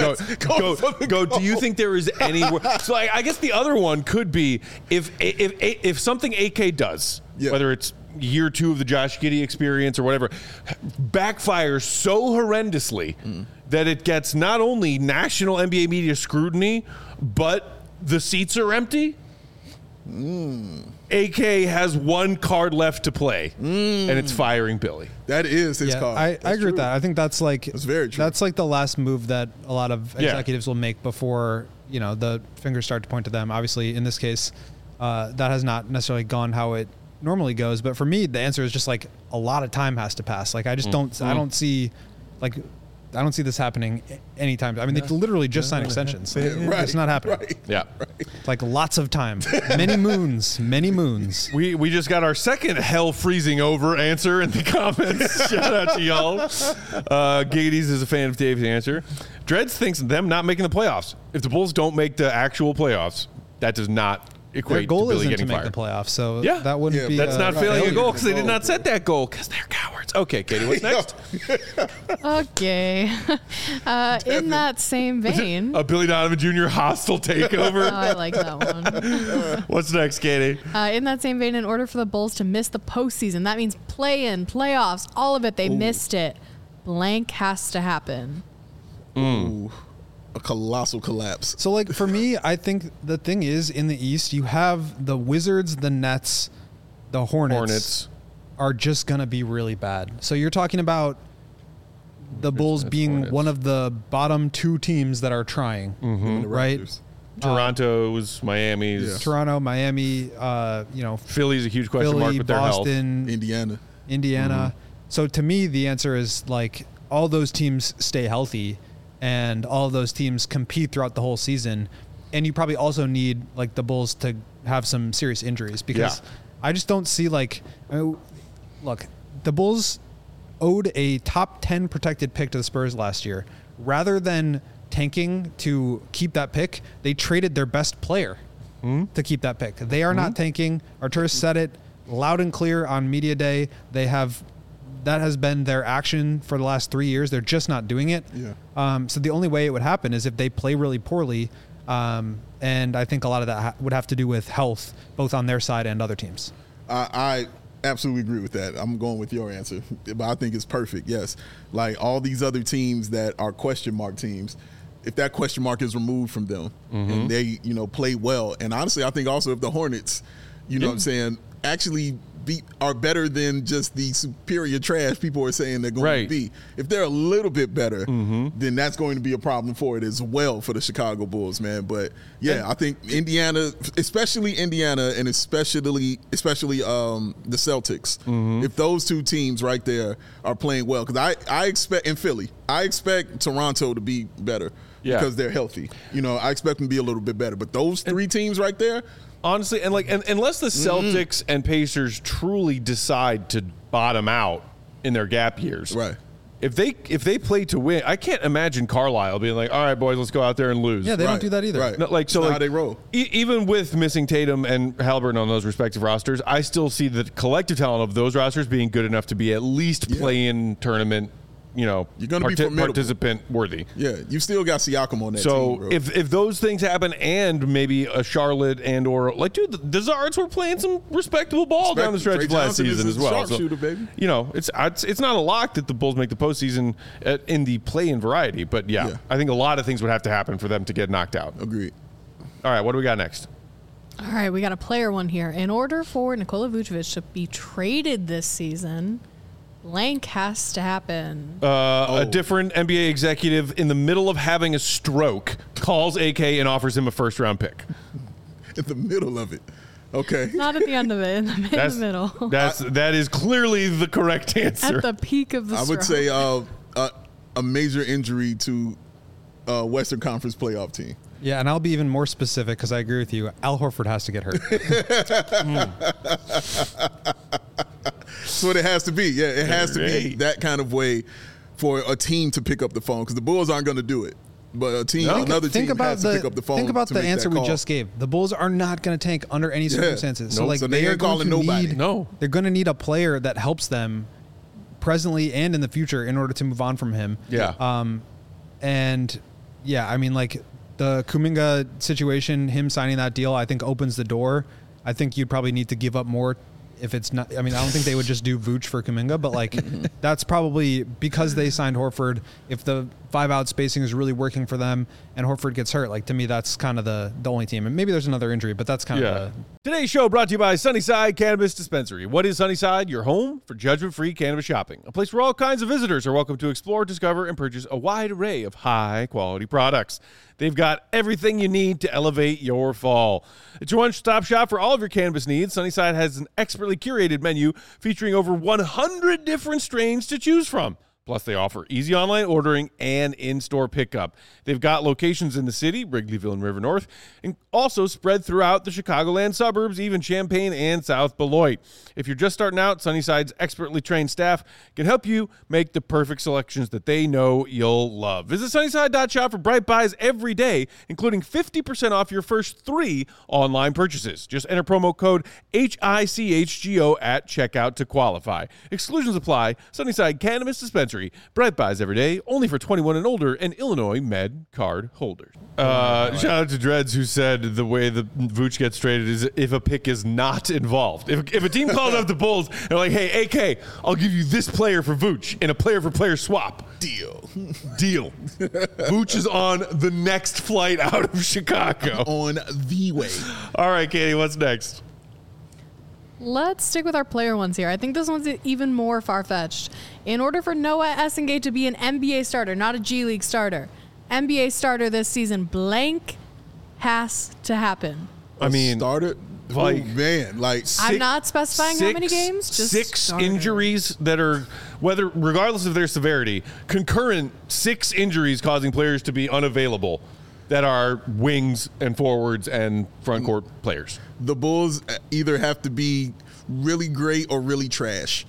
Go. Do you think there is any? So I guess the other one could be if something AK does, whether it's year 2 of the Josh Giddey experience or whatever, backfires so horrendously that it gets not only national NBA media scrutiny, but the seats are empty. AK has one card left to play, and it's firing Billy. That is his card. I agree with that. I think that's very true. That's like the last move that a lot of executives will make before the fingers start to point to them. Obviously, in this case, that has not necessarily gone how it normally goes. But for me, the answer is just like a lot of time has to pass. Like I just don't. I don't see this happening anytime. I mean, they literally just signed extensions. It's not happening. Right. Yeah. Like lots of time, many moons. We just got our second hell freezing over answer in the comments. Shout out to y'all. Giggity is a fan of Dave's answer. Dreads thinks them not making the playoffs. If the Bulls don't make the actual playoffs, that does not equate Their goal to Billy isn't getting to make fired. the playoffs, so Yeah. that wouldn't be. That's not failing a failure. goal because they did not set that goal because they're cowards. Okay, Katie, what's next? Okay. In that same vein. A Billy Donovan Jr. hostile takeover. Oh, I like that one. What's next, Katie? In that same vein, in order for the Bulls to miss the postseason, that means play-in, playoffs, all of it, they missed it. Blank has to happen. Ooh, a colossal collapse. So, like, for me, I think the thing is, in the East, you have the Wizards, the Nets, the Hornets are just going to be really bad. So you're talking about the Bulls being Hornets. one of the bottom two teams that are trying, The right? Raptors. Toronto's, Miami's. Yeah. Toronto, Miami, Philly's a huge question mark Philly, with their health. Boston, Indiana. So to me, the answer is like all those teams stay healthy and all of those teams compete throughout the whole season. And you probably also need like the Bulls to have some serious injuries because I just don't see look, the Bulls owed a top 10 protected pick to the Spurs last year. Rather than tanking to keep that pick, they traded their best player to keep that pick. They are not tanking. Arturas said it loud and clear on media day. That has been their action for the last 3 years. They're just not doing it. Yeah. So the only way it would happen is if they play really poorly. And I think a lot of that would have to do with health, both on their side and other teams. I absolutely agree with that. I'm going with your answer, but I think it's perfect. Yes. Like all these other teams that are question mark teams, if that question mark is removed from them and they, play well. And honestly, I think also if the Hornets, what I'm saying, actually are better than just the superior trash people are saying they're going to be. If they're a little bit better, then that's going to be a problem for it as well for the Chicago Bulls, man. But I think Indiana, especially Indiana and especially the Celtics, if those two teams right there are playing well, because I expect in Philly, I expect Toronto to be better because they're healthy. I expect them to be a little bit better. But those three teams right there, honestly, and unless the Celtics and Pacers truly decide to bottom out in their gap years, right? If they play to win, I can't imagine Carlisle being like, "All right, boys, let's go out there and lose." Yeah, they don't do that either. Right. No, How they roll. Even with missing Tatum and Halliburton on those respective rosters, I still see the collective talent of those rosters being good enough to be at least play-in tournament. You're going to be formidable. Participant worthy. Yeah, you still got Siakam on that team. So if those things happen, and maybe a Charlotte or the Zards were playing some respectable ball down the stretch of last season as well. Sharpshooter, baby. It's not a lock that the Bulls make the postseason in the play-in variety, but I think a lot of things would have to happen for them to get knocked out. Agreed. All right, what do we got next? All right, we got a player one here. In order for Nikola Vucevic to be traded this season, blank has to happen. A different NBA executive in the middle of having a stroke calls AK and offers him a first-round pick. In the middle of it. Okay. Not at the end of it, in the middle. That is clearly the correct answer. At the peak of the I would say a major injury to Western Conference playoff team. Yeah, and I'll be even more specific because I agree with you. Al Horford has to get hurt. That's what it has to be. Yeah, it has to be that kind of way for a team to pick up the phone because the Bulls aren't going to do it. But another team has to pick up the phone. Think about the answer we just gave. The Bulls are not going to tank under any circumstances. So they are ain't calling nobody. They're going to need a player that helps them presently and in the future in order to move on from him. Yeah. I mean, like the Kuminga situation, him signing that deal, I think opens the door. I think you'd probably need to give up more. If it's not, I mean, I don't think they would just do Vooch for Kuminga, but like that's probably because they signed Horford. If the 5-out spacing is really working for them, and Horford gets hurt. Like, to me, that's kind of the only team. And maybe there's another injury, but that's kind of the... Today's show brought to you by Sunnyside Cannabis Dispensary. What is Sunnyside? Your home for judgment-free cannabis shopping. A place where all kinds of visitors are welcome to explore, discover, and purchase a wide array of high-quality products. They've got everything you need to elevate your fall. It's your one-stop shop for all of your cannabis needs. Sunnyside has an expertly curated menu featuring over 100 different strains to choose from. Plus, they offer easy online ordering and in-store pickup. They've got locations in the city, Wrigleyville and River North, and also spread throughout the Chicagoland suburbs, even Champaign and South Beloit. If you're just starting out, Sunnyside's expertly trained staff can help you make the perfect selections that they know you'll love. Visit Sunnyside.shop for bright buys every day, including 50% off your first 3 online purchases. Just enter promo code HICHGO at checkout to qualify. Exclusions apply. Sunnyside Cannabis Dispensary. Bright buys every day, only for 21 and older, and Illinois Med card holders. Shout out to Dreads, who said the way the Vooch gets traded is if a pick is not involved. If a team calls up the Bulls, they're like, hey, AK, I'll give you this player for Vooch in a player-for-player swap. Deal. Vooch is on the next flight out of Chicago. On the way. All right, Katie, what's next? Let's stick with our player ones here. I think this one's even more far-fetched. In order for Noah Essengate to be an NBA starter, not a G League starter, NBA starter this season, blank has to happen. I mean, started. Like, oh man, like I'm not specifying how many games. Just 6 starter. injuries that are, regardless of their severity, concurrent 6 injuries causing players to be unavailable that are wings and forwards and front court players. The Bulls either have to be really great or really trash.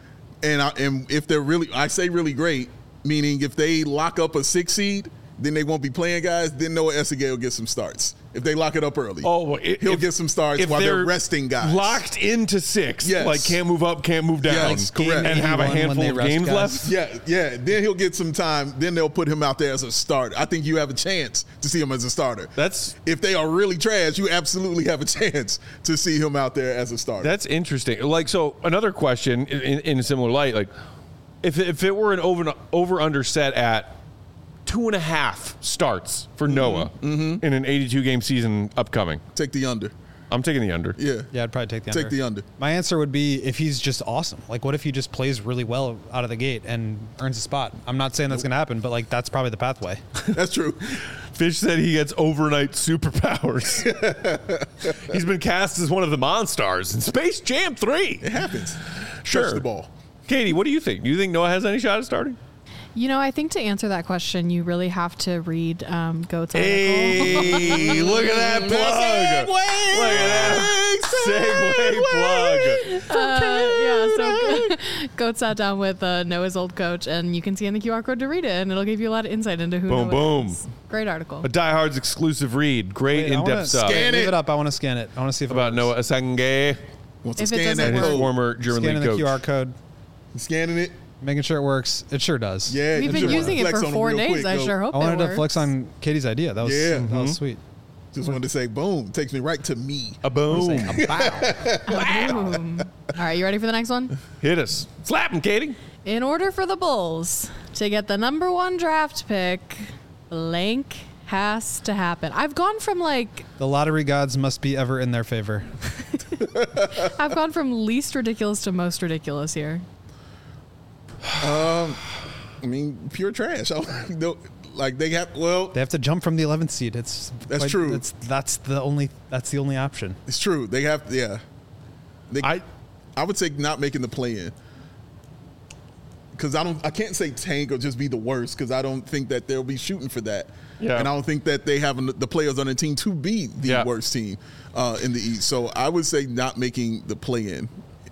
And if they're really, I say really great, meaning if they lock up a 6 seed, then they won't be playing guys. Then Noah Essengate will get some starts. If they lock it up early, he'll get some starts while they're resting guys. Locked into 6, yes. Like can't move up, can't move down, yes, correct. And have a handful of games left. Yeah. Then he'll get some time. Then they'll put him out there as a starter. I think you have a chance to see him as a starter. If they are really trash, you absolutely have a chance to see him out there as a starter. That's interesting. Like, so another question in a similar light, like if it were an over-under set at 2.5 starts for Noah in an 82-game season upcoming. Take the under. I'm taking the under. Yeah, I'd probably take the under. Take the under. My answer would be if he's just awesome. Like, what if he just plays really well out of the gate and earns a spot? I'm not saying that's going to happen, but like that's probably the pathway. That's true. Fish said he gets overnight superpowers. He's been cast as one of the Monstars in Space Jam 3. It happens. Sure. Touch the ball. Katie, what do you think? Do you think Noah has any shot at starting? You know, I think to answer that question, you really have to read Goat's article. Hey, look at that plug. Look at that segue plug. So Goat sat down with Noah's old coach, and you can see in the QR code to read it, and it'll give you a lot of insight into who Noah is. Great article. A Die Hard's exclusive read. Great in-depth stuff. Scan Leave it up. I want to scan it. I want to see if about Noah Essengate Wants to If it scan doesn't that and his work. former German scanning league the coach. QR code, Scanning it. making sure it works. It sure does. Yeah. We've you been sure using it flex for on 4 real days. quick, I though. sure hope I wanted it to works. flex on Katie's idea. That was that was sweet. Just wanted to say, boom. Takes me right to me. A boom. Boom. All right, you ready for the next one? Hit us. Slap him, Katie. In order for the Bulls to get the number 1 draft pick, blank has to happen. I've gone from The lottery gods must be ever in their favor. I've gone from least ridiculous to most ridiculous here. I mean, pure trash. Like they have. Well, They have to jump from the 11th seed. That's true. That's the only option. it's true. They have. Yeah. I would say not making the play-in. Because I can't say tank or just be the worst because I don't think that they'll be shooting for that. Yeah. And I don't think that they have the players on the team to be the worst team in the East. So I would say not making the play-in.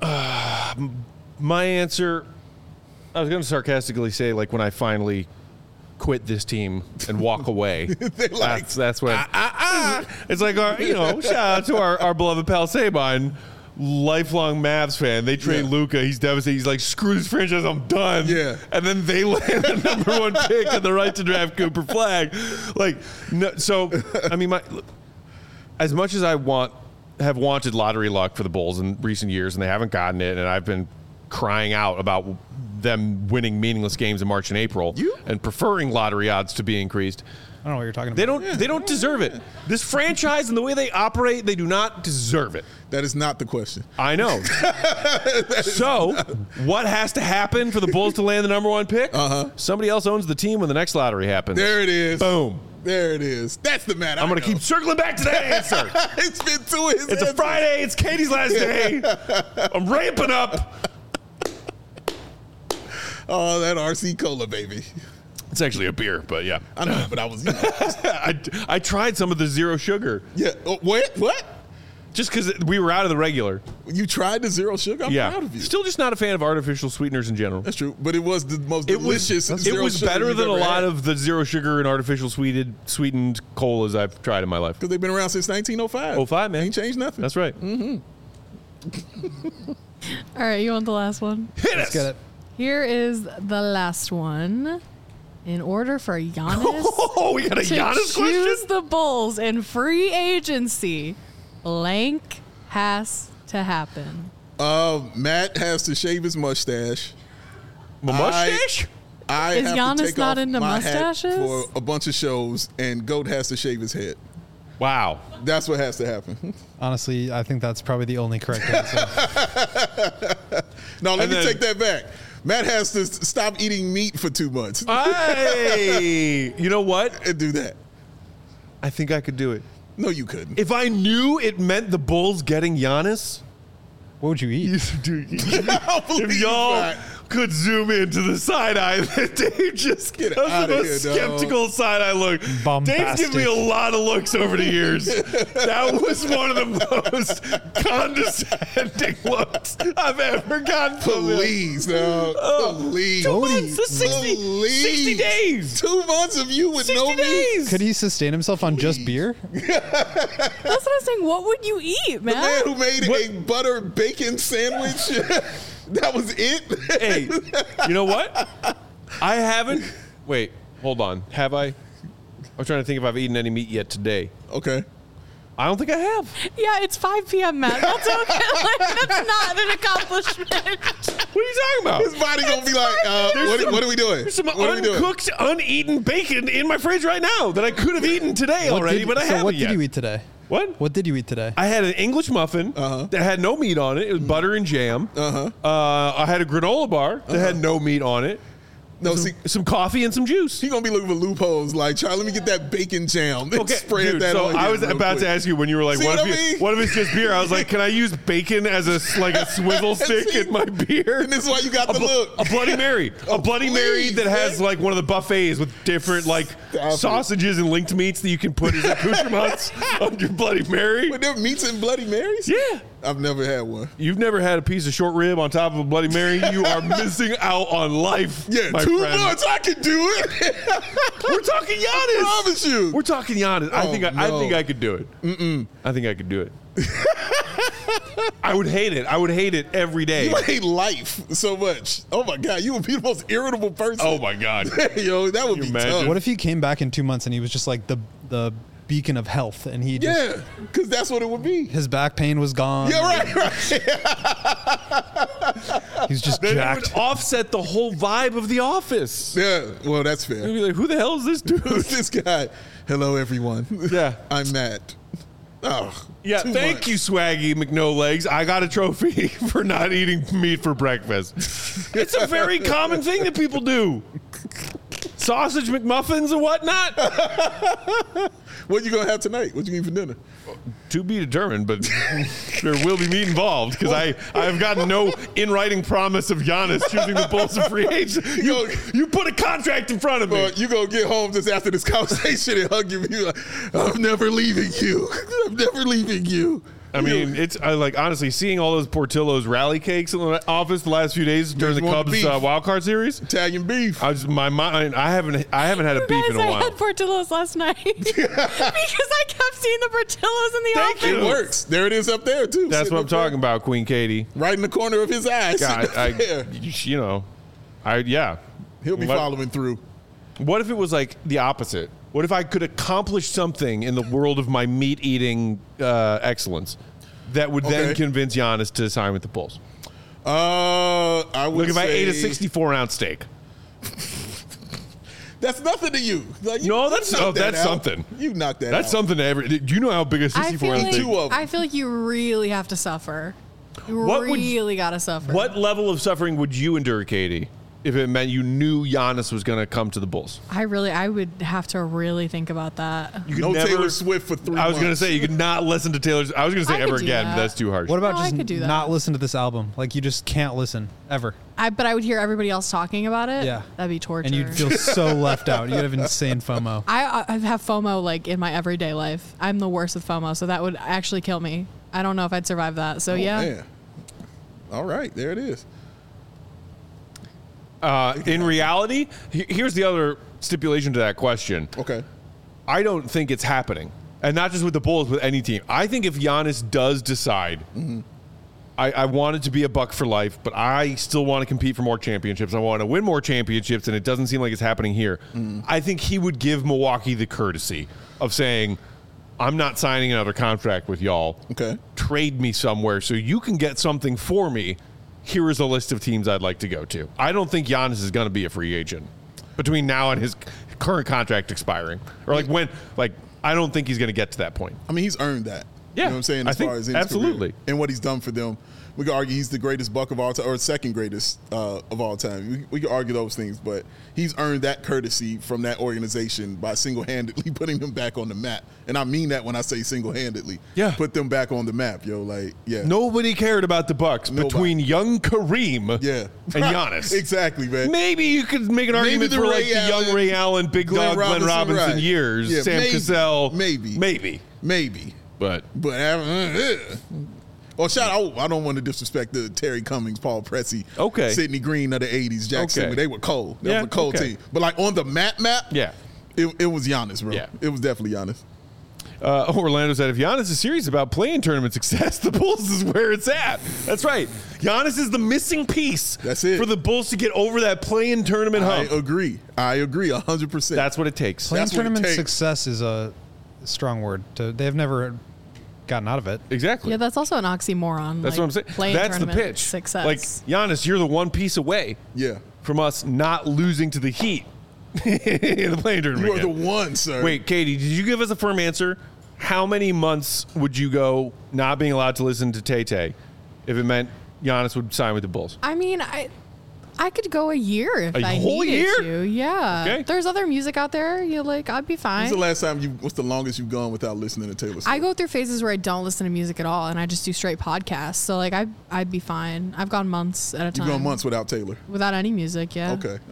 My answer, I was going to sarcastically say, like, when I finally quit this team and walk away. Like, that's when. It's like, shout out to our beloved pal Sabine. Lifelong Mavs fan. They trade Luka. He's devastated. He's like, screw this franchise. I'm done. Yeah. And then they land the number 1 pick and the right to draft Cooper Flagg. Like, no, so, I mean, as much as I have wanted lottery luck for the Bulls in recent years, and they haven't gotten it, and I've been crying out about them winning meaningless games in March and April and preferring lottery odds to be increased. I don't know what you're talking about. They don't deserve it. This franchise and the way they operate, they do not deserve it. That is not the question. I know. So, what has to happen for the Bulls to land the number 1 pick? Somebody else owns the team when the next lottery happens. There it is. Boom. There it is. That's the man. I'm going to keep circling back to that answer. It's been 2 his It's a Friday. It's Katie's last day. I'm ramping up. Oh, that RC Cola, baby. It's actually a beer, but yeah. I know, but I was. I tried some of the zero sugar. Yeah. What? Just because we were out of the regular. You tried the zero sugar? I'm proud of you. Still just not a fan of artificial sweeteners in general. That's true, but it was the most delicious. It was better than a lot of the zero sugar and artificial sweetened colas I've tried in my life. Because they've been around since 1905. 05, man. Ain't changed nothing. That's right. All right, you want the last one? Let's get it. Here is the last one. In order for Giannis we got a to Giannis choose question? the Bulls in free agency, blank has to happen. Matt has to shave his mustache. My mustache? I Is have Giannis to take not off into my hat mustaches? for a bunch of shows, and Goat has to shave his head. Wow. That's what has to happen. Honestly, I think that's probably the only correct answer. No, let me take that back. Matt has to stop eating meat for 2 months. Hey, you know what? And do that. I think I could do it. No, you couldn't. If I knew it meant the Bulls getting Giannis, What would you eat? dude, I believe if y'all that. could zoom into the side eye that Dave just Get because outta of a here, dog. skeptical side eye look. Dave's Bombastic. given me a lot of looks over the years. That was one of the most condescending looks I've ever gotten from him. Please, dog. Please. 2 months, that's 60 Please. days. 2 months of you with 60 no meat. days. Could he sustain himself on just beer? That's what I'm saying. What would you eat, man? The man who made a butter bacon sandwich. That was it. Hey, you know what? I haven't. Wait, hold on. Have I? I'm trying to think if I've eaten any meat yet today. Okay. I don't think I have. Yeah, it's 5 p.m., Matt. That's okay. Like, that's not an accomplishment. What are you talking about? His body gonna be like, what are we doing? There's some What are we doing? uncooked, uneaten bacon in my fridge right now that I could have eaten today already, but I haven't what yet. did you eat today? What? What did you eat today? I had an English muffin that had no meat on it. It was butter and jam. I had a granola bar that had no meat on it. No, see, Some coffee and some juice. he gonna be looking for loopholes. Like, try, let me get that bacon jam. Okay, Spread dude, that so on I here was real about quick. to ask you when you were like, See what what if, I mean? what if it's just beer? I was like, can I use bacon as a swivel stick in my beer? And this is why you got the look. A Bloody Mary. A Bloody Mary please, that has man. like one of the buffets with different like Stop it. sausages and linked meats that you can put as accoutrements on your Bloody Mary. But there are meats and Bloody Marys? Yeah. I've never had one. You've never had a piece of short rib on top of a Bloody Mary. You are missing out on life. Yeah, my 2 friend. months, I can do it. We're talking Giannis. I promise you. We're talking Giannis. I Oh, think I could do it. I think I could do it. I would hate it. I would hate it every day. You hate life so much. Oh my God, you would be the most irritable person. Oh my God. Yo, that would Can be you imagine? tough. What if he came back in 2 months and he was just like the beacon of health and he just, Yeah, because that's what it would be. his back pain was gone. Yeah, right. He's just Then it jacked. would offset the whole vibe of The Office. Yeah, well, that's You'd fair. be like, who the hell is this dude? Who's this guy? Hello, everyone. Yeah. I'm Matt. Oh, Yeah, 2 thank months. you, Swaggy McNolegs. I got a trophy for not eating meat for breakfast. It's a very common thing that people do. Sausage McMuffins and whatnot. What you gonna have tonight? What you eat for dinner? To be determined, but there will be meat involved because I have gotten no in writing promise of Giannis choosing the Bulls of free agent. You put a contract in front of me. You gonna get home just after this conversation and hug you. Like, I'm never leaving you. I'm never leaving you. I mean, it's like honestly seeing all those Portillo's rally cakes in the office the last few days during the There's more Cubs beef. wild card series. Italian beef. I was my mind. I haven't had a beef in a I while. had Portillo's last night because I kept seeing the Portillo's in the Thank office. you. It works. There it is up there too. That's Sitting what I'm up there. talking about, Queen Katie. Right in the corner of his eyes. God, yeah. He'll be What- following through. What if it was like the opposite? What if I could accomplish something in the world of my meat eating excellence that would then Okay. convince Giannis to sign with the Bulls? I would Look, if I ate a say 64-ounce steak. that's nothing to you. Like, No, that's out. something. You knocked that out. That's something to every. Do you know how big a I feel 64-ounce like steak? Two of them. I feel like you really have to suffer. You What would really gotta suffer. What level of suffering would you endure, Katie, if it meant you knew Giannis was going to come to the Bulls? I would have to really think about that. You could No never- Taylor Swift for 3 months. I was going to say you could not listen to Taylor's. I was going to say I ever could do again. that. That's too harsh. What about No, I just could do that. not listen to this album? Like you just can't listen ever. But I would hear everybody else talking about it. Yeah. That'd be torture. And you'd feel so left out. You'd have insane FOMO. I have FOMO like in my everyday life. I'm the worst with FOMO, so that would actually kill me. I don't know if I'd survive that. So yeah. Man. All right, there it is. In reality, here's the other stipulation to that question. Okay. I don't think it's happening. And not just with the Bulls, with any team. I think if Giannis does decide, I want it to be a buck for life, but I still want to compete for more championships. I want to win more championships, and it doesn't seem like it's happening here. I think he would give Milwaukee the courtesy of saying, I'm not signing another contract with y'all. Okay. Trade me somewhere so you can get something for me. Here is a list of teams I'd like to go to. I don't think Giannis is going to be a free agent between now and his current contract expiring. Or I don't think he's going to get to that point. I mean, he's earned that. Yeah, You know what I'm saying? I As think far as in his absolutely. career and what he's done for them. We could argue he's the greatest Buck of all time, or second greatest of all time. We could argue those things, but he's earned that courtesy from that organization by single-handedly putting them back on the map. And I mean that when I say single-handedly. Yeah. Put them back on the map, yo. Like, yeah. Nobody cared about the Bucks Nobody. between young Kareem Yeah. and Giannis. Exactly, man. Maybe you could make an argument the for Ray the young Allen, Ray Allen, Big Dog, Glenn Robinson right. years, Yeah, Sam maybe, Cassell. Maybe. But Well, shout out. I don't want to disrespect the Terry Cummings, Paul Pressey, Okay. Sidney Green of the 80s, Jackson. Okay. They were cold. That Yeah, was a cold okay. team. But like on the map, yeah. it was Giannis, bro. Yeah. It was definitely Giannis. Orlando said, if Giannis is serious about playing tournament success, the Bulls is where it's at. That's right. Giannis is the missing piece. That's it. For the Bulls to get over that play-in tournament hump. I agree 100%. That's what it takes. Playing That's what it tournament takes. success is a strong word. They've never gotten out of it. Exactly. Yeah, that's also an oxymoron. That's what I'm saying. Playing That's the tournament pitch. Success. Like, Giannis, you're the one piece away Yeah. from us not losing to the Heat in the playing tournament. You are the again. one, sir. Wait, Katie, did you give us a firm answer? How many months would you go not being allowed to listen to Tay-Tay if it meant Giannis would sign with the Bulls? I mean, I could go a year if A I whole needed year? to. Yeah. Okay. There's other music out there. I'd be fine. When's the last time what's the longest you've gone without listening to Taylor Swift? I go through phases where I don't listen to music at all, and I just do straight podcasts. So I'd be fine. I've gone months at a time. You've gone months without Taylor. without any music. Yeah.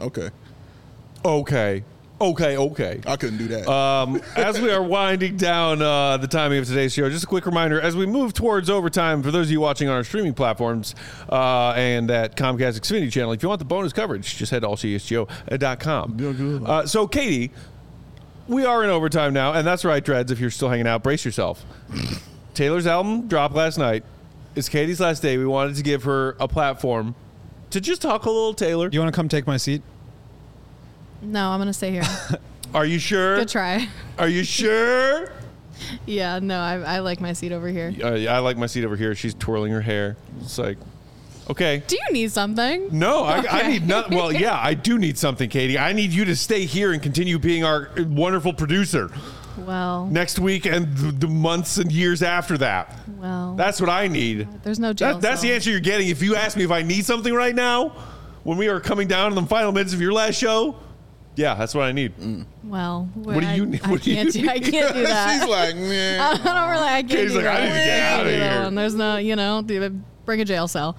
Okay. Okay. I couldn't do that. As we are winding down the timing of today's show, just a quick reminder, as we move towards overtime, for those of you watching on our streaming platforms and that Comcast Xfinity channel, if you want the bonus coverage, just head to allcsgo.com. So, Katie, we are in overtime now, and that's right, Dreads, if you're still hanging out, brace yourself. Taylor's album dropped last night. It's Katie's last day. We wanted to give her a platform to just talk a little Taylor. You want to come take my seat? No, I'm gonna stay here. Are you sure? Good try. Are you sure? Yeah. No, I like my seat over here. I like my seat over here. She's twirling her hair. It's like, okay. Do you need something? No, I Okay. need nothing. Well, yeah, I do need something, Katie. I need you to stay here and continue being our wonderful producer Well. next week and the months and years after that. Well. That's what I need. There's no jail. That's the cell. answer you're getting. If you ask me if I need something right now, when we are coming down in the final minutes of your last show, yeah, that's what I need. Well. What do you need? I What do you can't do. I need? can't do that. She's like, man. I don't really. I can't Katie's do like, that. I need to get can't outta do that here. one. There's no. Bring a jail cell.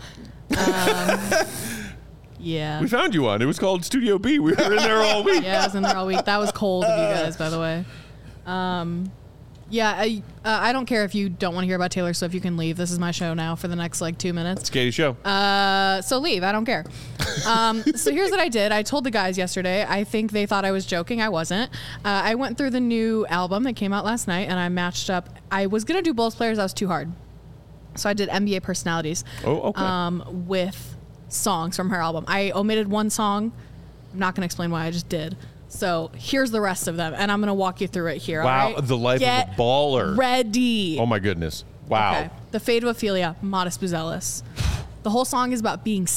Yeah. We found you one. It was called Studio B. We were in there all week. Yeah, I was in there all week. That was cold of you guys, by the way. Yeah, I don't care if you don't want to hear about Taylor Swift. You can leave. This is my show now for the next 2 minutes. It's Katie's show. So leave. I don't care. So here's what I did. I told the guys yesterday. I think they thought I was joking. I wasn't. I went through the new album that came out last night, and I matched up. I was gonna do Bulls players. That was too hard. So I did NBA personalities. Oh, okay. With songs from her album. I omitted one song. I'm not gonna explain why. I just did. So here's the rest of them, and I'm going to walk you through it here. Wow, all right? the life of a baller. Ready. Oh, my goodness. Wow. Okay. The Fate of Ophelia, Modest Buzelis. The whole song is about being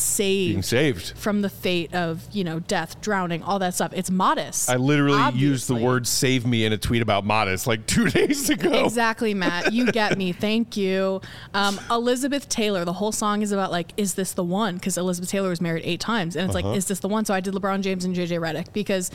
saved from the fate of, death, drowning, all that stuff. It's Modest. I literally used the word "save me" in a tweet about Modest like 2 days ago. Exactly, Matt. You get me. Thank you. Elizabeth Taylor. The whole song is about like, is this the one? Because Elizabeth Taylor was married 8 times, and it's like, is this the one? So I did LeBron James and JJ Redick because.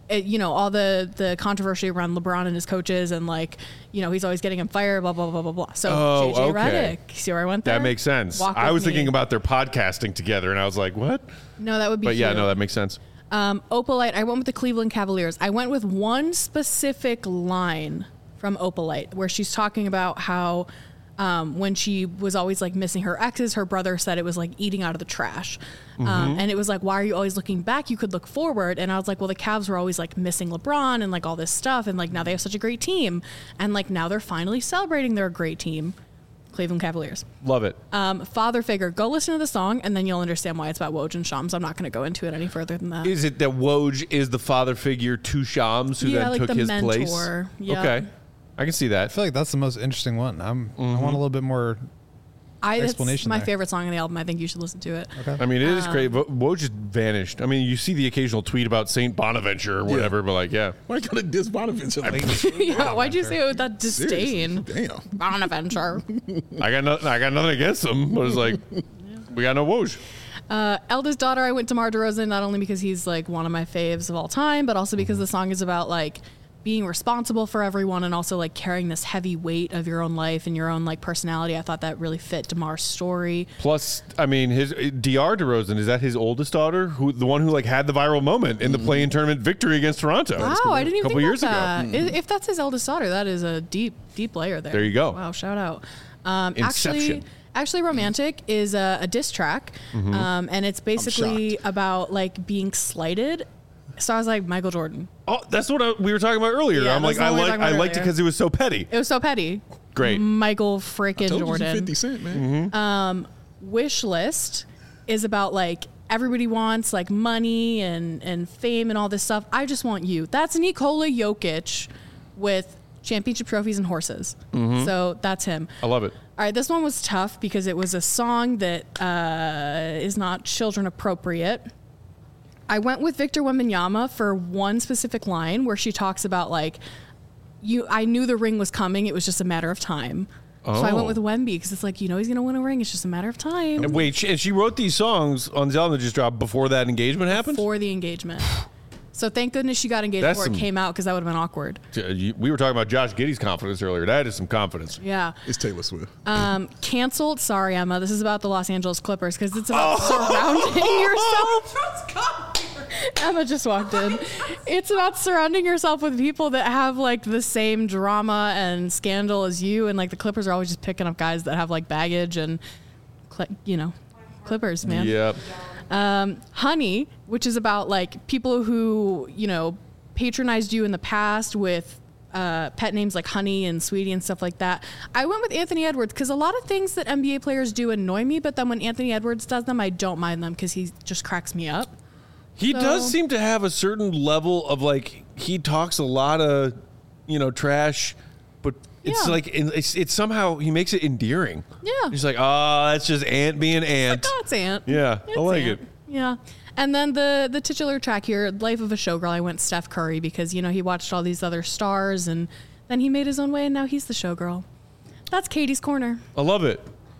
All the controversy around LeBron and his coaches and he's always getting him fired, blah, blah, blah, blah, blah. So JJ Redick, see where I went there? That makes sense. I was thinking about their podcasting together and I was like, what? No, that would be But yeah, no, that makes sense. Opalite, I went with the Cleveland Cavaliers. I went with one specific line from Opalite where she's talking about how when she was always like missing her exes, her brother said it was like eating out of the trash. And it was like, why are you always looking back? You could look forward. And I was like, well, the Cavs were always like missing LeBron and like all this stuff. And like now they have such a great team. And like now they're finally celebrating their great team. Cleveland Cavaliers. Love it. Father figure. Go listen to the song and then you'll understand why it's about Woj and Shams. I'm not going to go into it any further than that. Is it that Woj is the father figure to Shams who then took his mentor. Place? Yeah. Okay. I can see that. I feel like that's the most interesting one. I want a little bit more explanation. That's my there. favorite song on the album. I think you should listen to it. Okay. I mean, it is great. Woj just vanished. I mean, you see the occasional tweet about Saint Bonaventure or whatever, but like, yeah. Why gotta diss Bonaventure? Yeah, why'd you say it with that disdain? Seriously, damn. Bonaventure. I got nothing against him, but it's like, we got no Woj. Eldest daughter, I went to DeMar DeRozan, not only because he's like one of my faves of all time, but also because the song is about like being responsible for everyone and also like carrying this heavy weight of your own life and your own like personality. I thought that really fit DeMar's story. Plus, I mean, his DR DeRozan, is that his oldest daughter? The one who like had the viral moment in the play-in tournament victory against Toronto? Wow, I didn't even think years about that. ago. If that's his eldest daughter, that is a deep layer there. There you go. Wow, shout out. Inception. Actually, Romantic is a diss track, and it's basically about like being slighted. So I was like, Michael Jordan. Oh, that's what we were talking about earlier. Yeah, I'm like, I liked it because it was so petty. It was so petty. Great. Michael freaking Jordan. 50 Cent, man. Wish List is about like everybody wants like money and fame and all this stuff. I just want you. That's Nikola Jokic with championship trophies and horses. So that's him. I love it. All right, this one was tough because it was a song that is not children appropriate. I went with Victor Wembanyama for one specific line where she talks about like, I knew the ring was coming. It was just a matter of time. So I went with Wemby because it's like, he's going to win a ring. It's just a matter of time. And wait, and she wrote these songs on the album that just dropped before that engagement happened? Before the engagement. So thank goodness she got engaged before it came out because that would have been awkward. We were talking about Josh Giddey's confidence earlier. That is some confidence. Yeah. It's Taylor Swift. Canceled. Sorry, Emma. This is about the Los Angeles Clippers because it's about surrounding yourself. Emma just walked in. It's about surrounding yourself with people that have like the same drama and scandal as you. And like the Clippers are always just picking up guys that have like baggage and, Clippers, man. Yep. Honey, which is about like people who, patronized you in the past with pet names like Honey and Sweetie and stuff like that. I went with Anthony Edwards because a lot of things that NBA players do annoy me, but then when Anthony Edwards does them, I don't mind them because he just cracks me up. He does seem to have a certain level of like, he talks a lot of, trash, but it's like, it's somehow, he makes it endearing. Yeah. He's like, that's just Ant being Ant. Like, it's Ant. Yeah, It's I like Ant. it. Yeah. And then the titular track here, Life of a Showgirl, I went Steph Curry because, he watched all these other stars and then he made his own way and now he's the showgirl. That's Katie's Corner. I love it.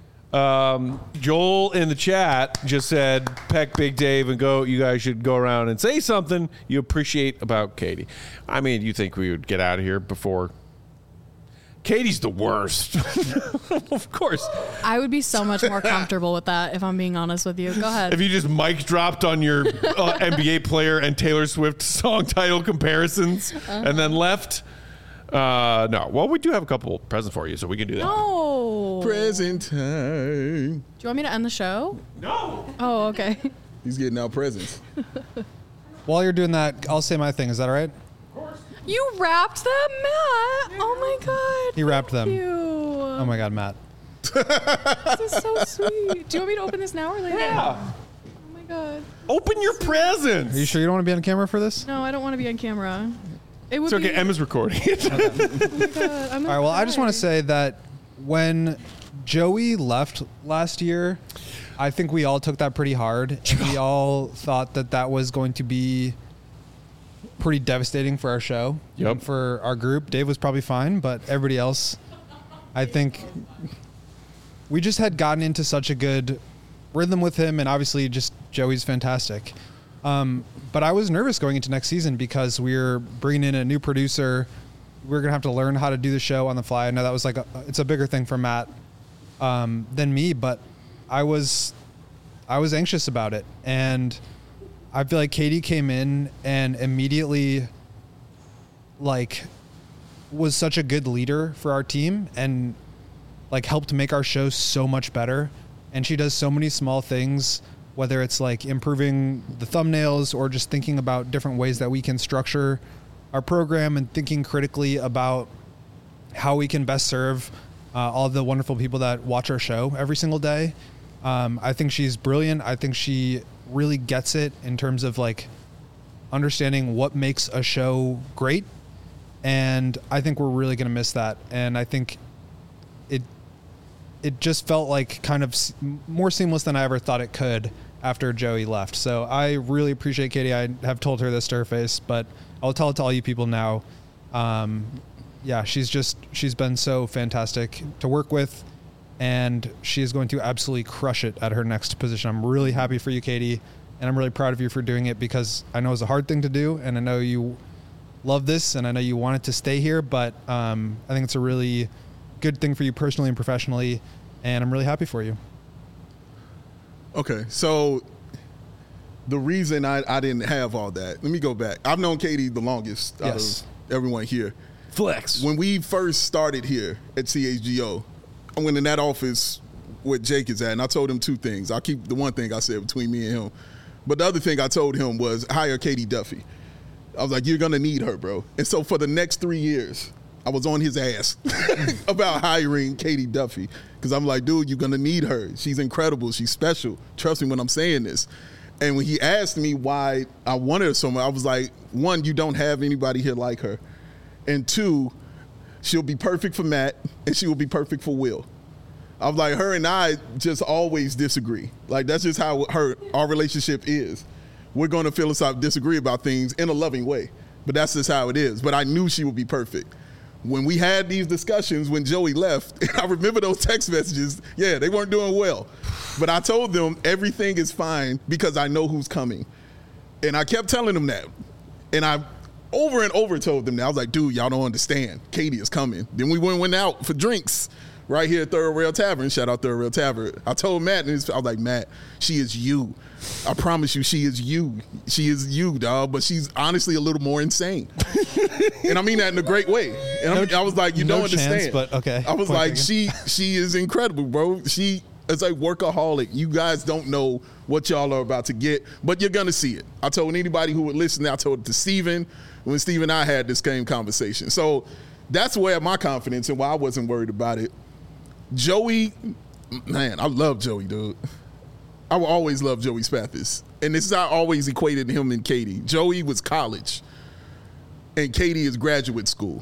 Joel in the chat just said, Peck, Big Dave, and Go, you guys should go around and say something you appreciate about Katie. I mean, you think we would get out of here before... Katie's the worst. Of course. I would be so much more comfortable with that if I'm being honest with you. Go ahead. If you just mic dropped on your NBA player and Taylor Swift song title comparisons and then left... no. Well, we do have a couple presents for you, so we can do that. No. Present time. Do you want me to end the show? No. Oh, okay. He's getting out presents. While you're doing that, I'll say my thing. Is that all right? You wrapped them, Matt. Oh my God. He wrapped them. You. Oh my God, Matt. This is so sweet. Do you want me to open this now or later? Yeah. Oh my God. Open your presents. Are you sure you don't want to be on camera for this? No, I don't want to be on camera. It would It's okay. be. Emma's recording. Oh my God. I'm All right. Well, I just want to say that when Joey left last year, I think we all took that pretty hard. And we all thought that was going to be pretty devastating for our show. Yep. And for our group. Dave was probably fine, but everybody else, I think we just had gotten into such a good rhythm with him, and obviously just Joey's fantastic. But I was nervous going into next season because we're bringing in a new producer. We're going to have to learn how to do the show on the fly. I know that was it's a bigger thing for Matt than me, but I was anxious about it. And I feel like Katie came in and immediately was such a good leader for our team and helped make our show so much better. And she does so many small things, whether it's improving the thumbnails or just thinking about different ways that we can structure our program and thinking critically about how we can best serve all the wonderful people that watch our show every single day. I think she's brilliant. I think she really gets it in terms of understanding what makes a show great. And I think we're really going to miss that. And I think it just felt kind of more seamless than I ever thought it could after Joey left. So I really appreciate Katie. I have told her this to her face, but I'll tell it to all you people now. Yeah, she's been so fantastic to work with, and she is going to absolutely crush it at her next position. I'm really happy for you, Katie, and I'm really proud of you for doing it because I know it's a hard thing to do, and I know you love this, and I know you want it to stay here, but I think it's a really good thing for you personally and professionally, and I'm really happy for you. Okay, so the reason I didn't have all that, let me go back. I've known Katie the longest out of everyone here. Flex. When we first started here at CHGO, I went in that office where Jake is at, and I told him two things. I'll keep the one thing I said between me and him. But the other thing I told him was hire Katie Duffy. I was like, you're going to need her, bro. And so for the next 3 years, I was on his ass about hiring Katie Duffy because I'm like, dude, you're going to need her. She's incredible. She's special. Trust me when I'm saying this. And when he asked me why I wanted her so much, I was like, one, you don't have anybody here like her. And two, she'll be perfect for Matt and she will be perfect for Will. I was like, her and I just always disagree. That's just how our relationship is. We're going to philosophically disagree about things in a loving way, but that's just how it is. But I knew she would be perfect. When we had these discussions when Joey left, and I remember those text messages, yeah, they weren't doing well. But I told them everything is fine because I know who's coming. And I kept telling them that. And I over and over told them that. I was like, dude, y'all don't understand. Katie is coming. Then we went out for drinks right here at Third Rail Tavern. Shout out Third Rail Tavern. I told Matt, and I was like, Matt, she is you. I promise you, she is you. She is you, dog. But she's honestly a little more insane. And I mean that in a great way. And I was like, you don't understand. Chance, but okay. I was like, she is incredible, bro. She is a workaholic. You guys don't know what y'all are about to get, but you're going to see it. I told anybody who would listen, I told it to Steven when Steve and I had this same conversation. So that's where my confidence and why I wasn't worried about it. Joey, man, I love Joey, dude. I will always love Joey Spathis. And this is how I always equated him and Katie. Joey was college, and Katie is graduate school.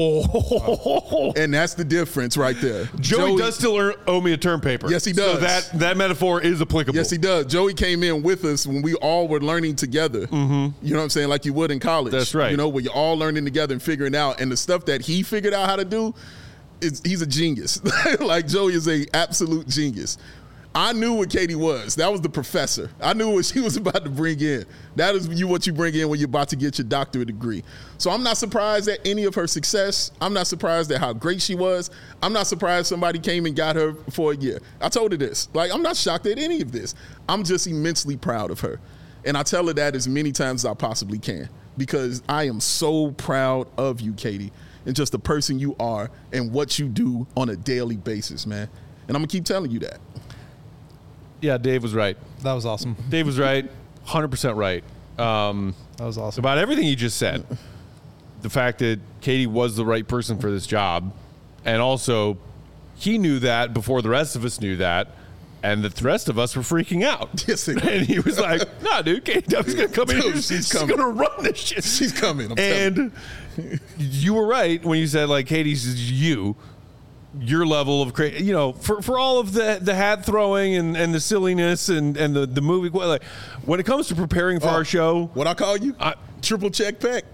Oh. And that's the difference right there. Joey does still owe me a term paper. Yes, he does. So that metaphor is applicable. Yes, he does. Joey came in with us when we all were learning together. Mm-hmm. You know what I'm saying? Like you would in college. That's right. You know, where you're all learning together and figuring out. And the stuff that he figured out how to do, he's a genius. Like Joey is a absolute genius. I knew what Katie was. That was the professor. I knew what she was about to bring in. That is what you bring in when you're about to get your doctorate degree. So I'm not surprised at any of her success. I'm not surprised at how great she was. I'm not surprised somebody came and got her for a year. I told her this. I'm not shocked at any of this. I'm just immensely proud of her. And I tell her that as many times as I possibly can because I am so proud of you, Katie, and just the person you are and what you do on a daily basis, man. And I'm going to keep telling you that. Yeah, Dave was right. That was awesome. Dave was right, 100% right. That was awesome. About everything he just said. The fact that Katie was the right person for this job, and also he knew that before the rest of us knew that, and the rest of us were freaking out. Yes, and he was like, nah, dude, Katie Duffy's going to come in here. She's going to run this shit. She's coming. And you were right when you said, Katie's is you. your level of for all of the hat throwing and the silliness and the movie, like when it comes to preparing for our show, what I call you, triple check pack.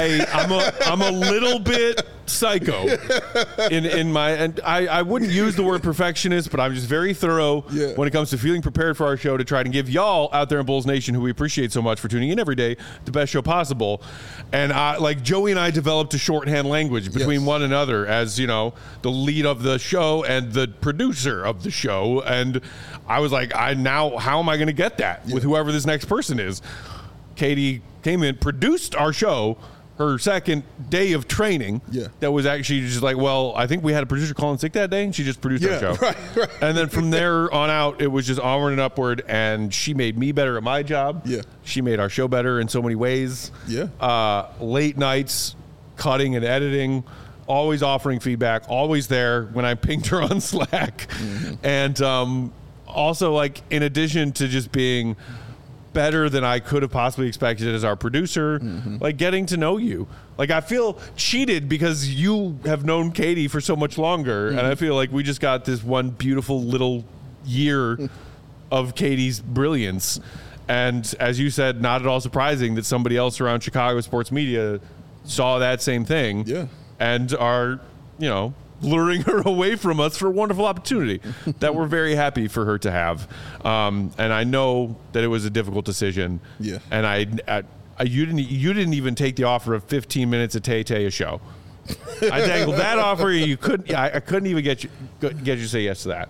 I'm a little bit psycho in my, and I wouldn't use the word perfectionist, but I'm just very thorough when it comes to feeling prepared for our show to try and give y'all out there in Bulls Nation, who we appreciate so much for tuning in every day, the best show possible. And like Joey and I developed a shorthand language between one another as, the lead of the show and the producer of the show. And I was like, how am I going to get that with whoever this next person is? Katie came in, produced our show, her second day of training. That was actually just like, well, I think we had a producer calling sick that day, and she just produced our show. Right. And then from there on out, it was just onward and upward, and she made me better at my job. She made our show better in so many ways. Late nights, cutting and editing, always offering feedback, always there when I pinged her on Slack. And also, like, in addition to just being better than I could have possibly expected as our producer, like getting to know you. Like, I feel cheated because you have known Katie for so much longer, and I feel like we just got this one beautiful little year of Katie's brilliance. And as you said, not at all surprising that somebody else around Chicago sports media saw that same thing and are, luring her away from us for a wonderful opportunity that we're very happy for her to have. And I know that it was a difficult decision. And you didn't even take the offer of 15 minutes of Tay-Tay a show. I dangled that offer. I couldn't even get you to say yes to that.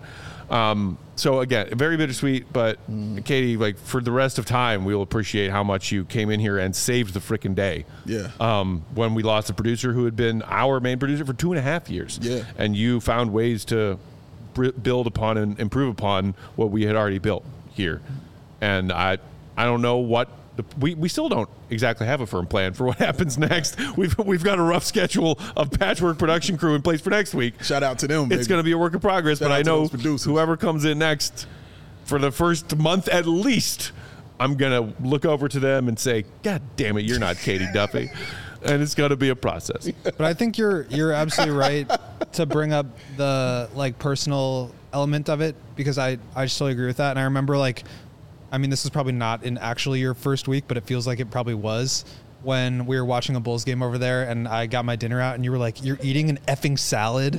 So again, very bittersweet, but Katie, like, for the rest of time, we'll appreciate how much you came in here and saved the freaking day. When we lost a producer who had been our main producer for 2.5 years. And you found ways to build upon and improve upon what we had already built here. And I don't know what we still don't exactly have a firm plan for what happens next. We've got a rough schedule of patchwork production crew in place for next week. Shout out to them. It's going to be a work in progress, but I know whoever comes in next for the first month at least, I'm going to look over to them and say, God damn it, you're not Katie Duffy. And it's going to be a process. But I think you're absolutely right to bring up the personal element of it, because I just totally agree with that. And I remember this is probably not in actually your first week, but it feels like it probably was when we were watching a Bulls game over there and I got my dinner out and you were like, you're eating an effing salad.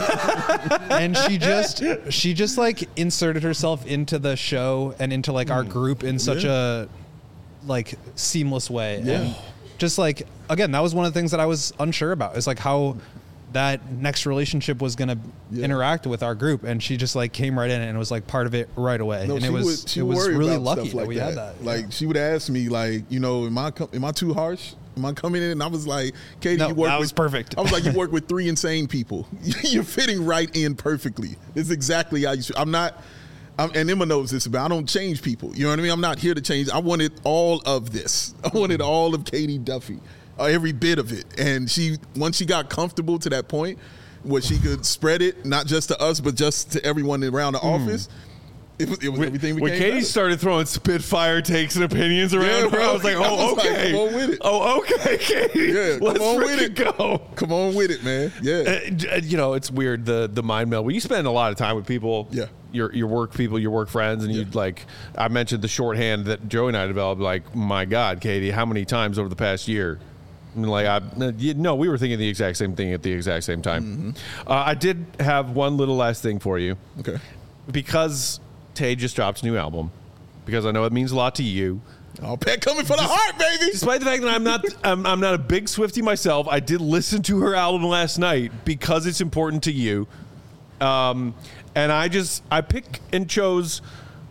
And she just inserted herself into the show and into our group in such a seamless way. And just again, that was one of the things that I was unsure about, is how that next relationship was going to interact with our group, and she just came right in and was part of it right away. No, and it was really lucky that we had that. She would ask me am I too harsh? Am I coming in? And I was like, Katie, no, that was perfect. I was like, you work with 3 insane people. You're fitting right in perfectly. It's exactly how you should. And Emma knows this, but I don't change people. You know what I mean? I'm not here to change. I wanted all of this. I wanted all of Katie Duffy. Every bit of it. And once she got comfortable to that point where she could spread it, not just to us, but just to everyone around the office, it was everything became when Katie better. Started throwing spitfire takes and opinions around her, I was like, okay. Come on with it. Oh, okay, Katie. Let's come on with it. Go. Come on with it, man. Yeah. It's weird, the mind meld. When you spend a lot of time with people, your work people, your work friends, and you'd I mentioned the shorthand that Joey and I developed, my God, Katie, how many times over the past year? We were thinking the exact same thing at the exact same time. I did have one little last thing for you. Okay. Because Tay just dropped a new album, because I know it means a lot to you. Oh, Pat coming for the heart, baby. Despite the fact that I'm not a big Swiftie myself, I did listen to her album last night because it's important to you. And I picked and chose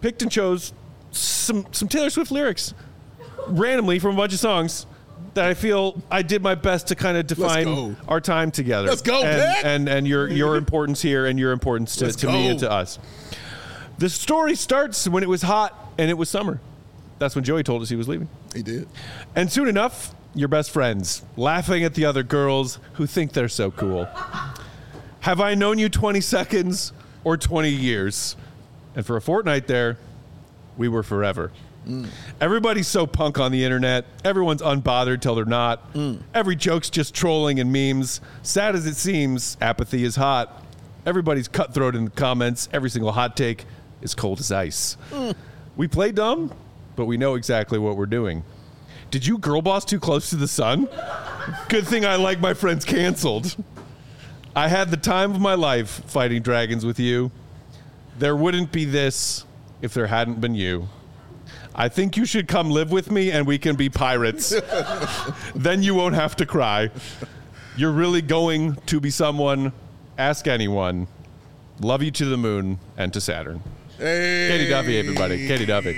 some Taylor Swift lyrics randomly from a bunch of songs that I feel I did my best to kind of define our time together. Let's go, Pat. And your importance here and your importance to me and to us. The story starts when it was hot and it was summer. That's when Joey told us he was leaving. He did. And soon enough, you're best friends, laughing at the other girls who think they're so cool. Have I known you 20 seconds or 20 years? And for a fortnight there, we were forever. Everybody's so punk on the internet. Everyone's unbothered till they're not. Every joke's just trolling and memes. Sad as it seems, apathy is hot. Everybody's cutthroat in the comments. Every single hot take is cold as ice. We play dumb, but we know exactly what we're doing. Did you girl boss too close to the sun? Good thing I like my friends canceled. I had the time of my life fighting dragons with you. There wouldn't be this if there hadn't been you. I think you should come live with me and we can be pirates. Then you won't have to cry. You're really going to be someone. Ask anyone. Love you to the moon and to Saturn. Hey. Katie Duffy, everybody. Katie Duffy.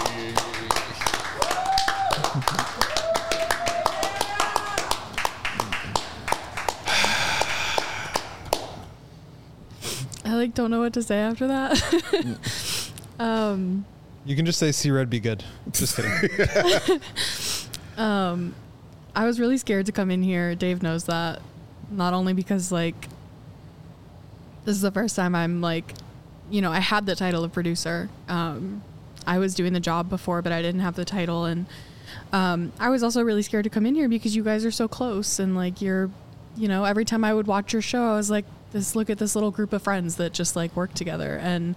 I don't know what to say after that. You can just say "See Red, be good." Just kidding. I was really scared to come in here. Dave knows that. Not only because this is the first time I'm I had the title of producer. I was doing the job before, but I didn't have the title, and I was also really scared to come in here because you guys are so close, and you're, every time I would watch your show, I was like, look at this little group of friends that just work together, and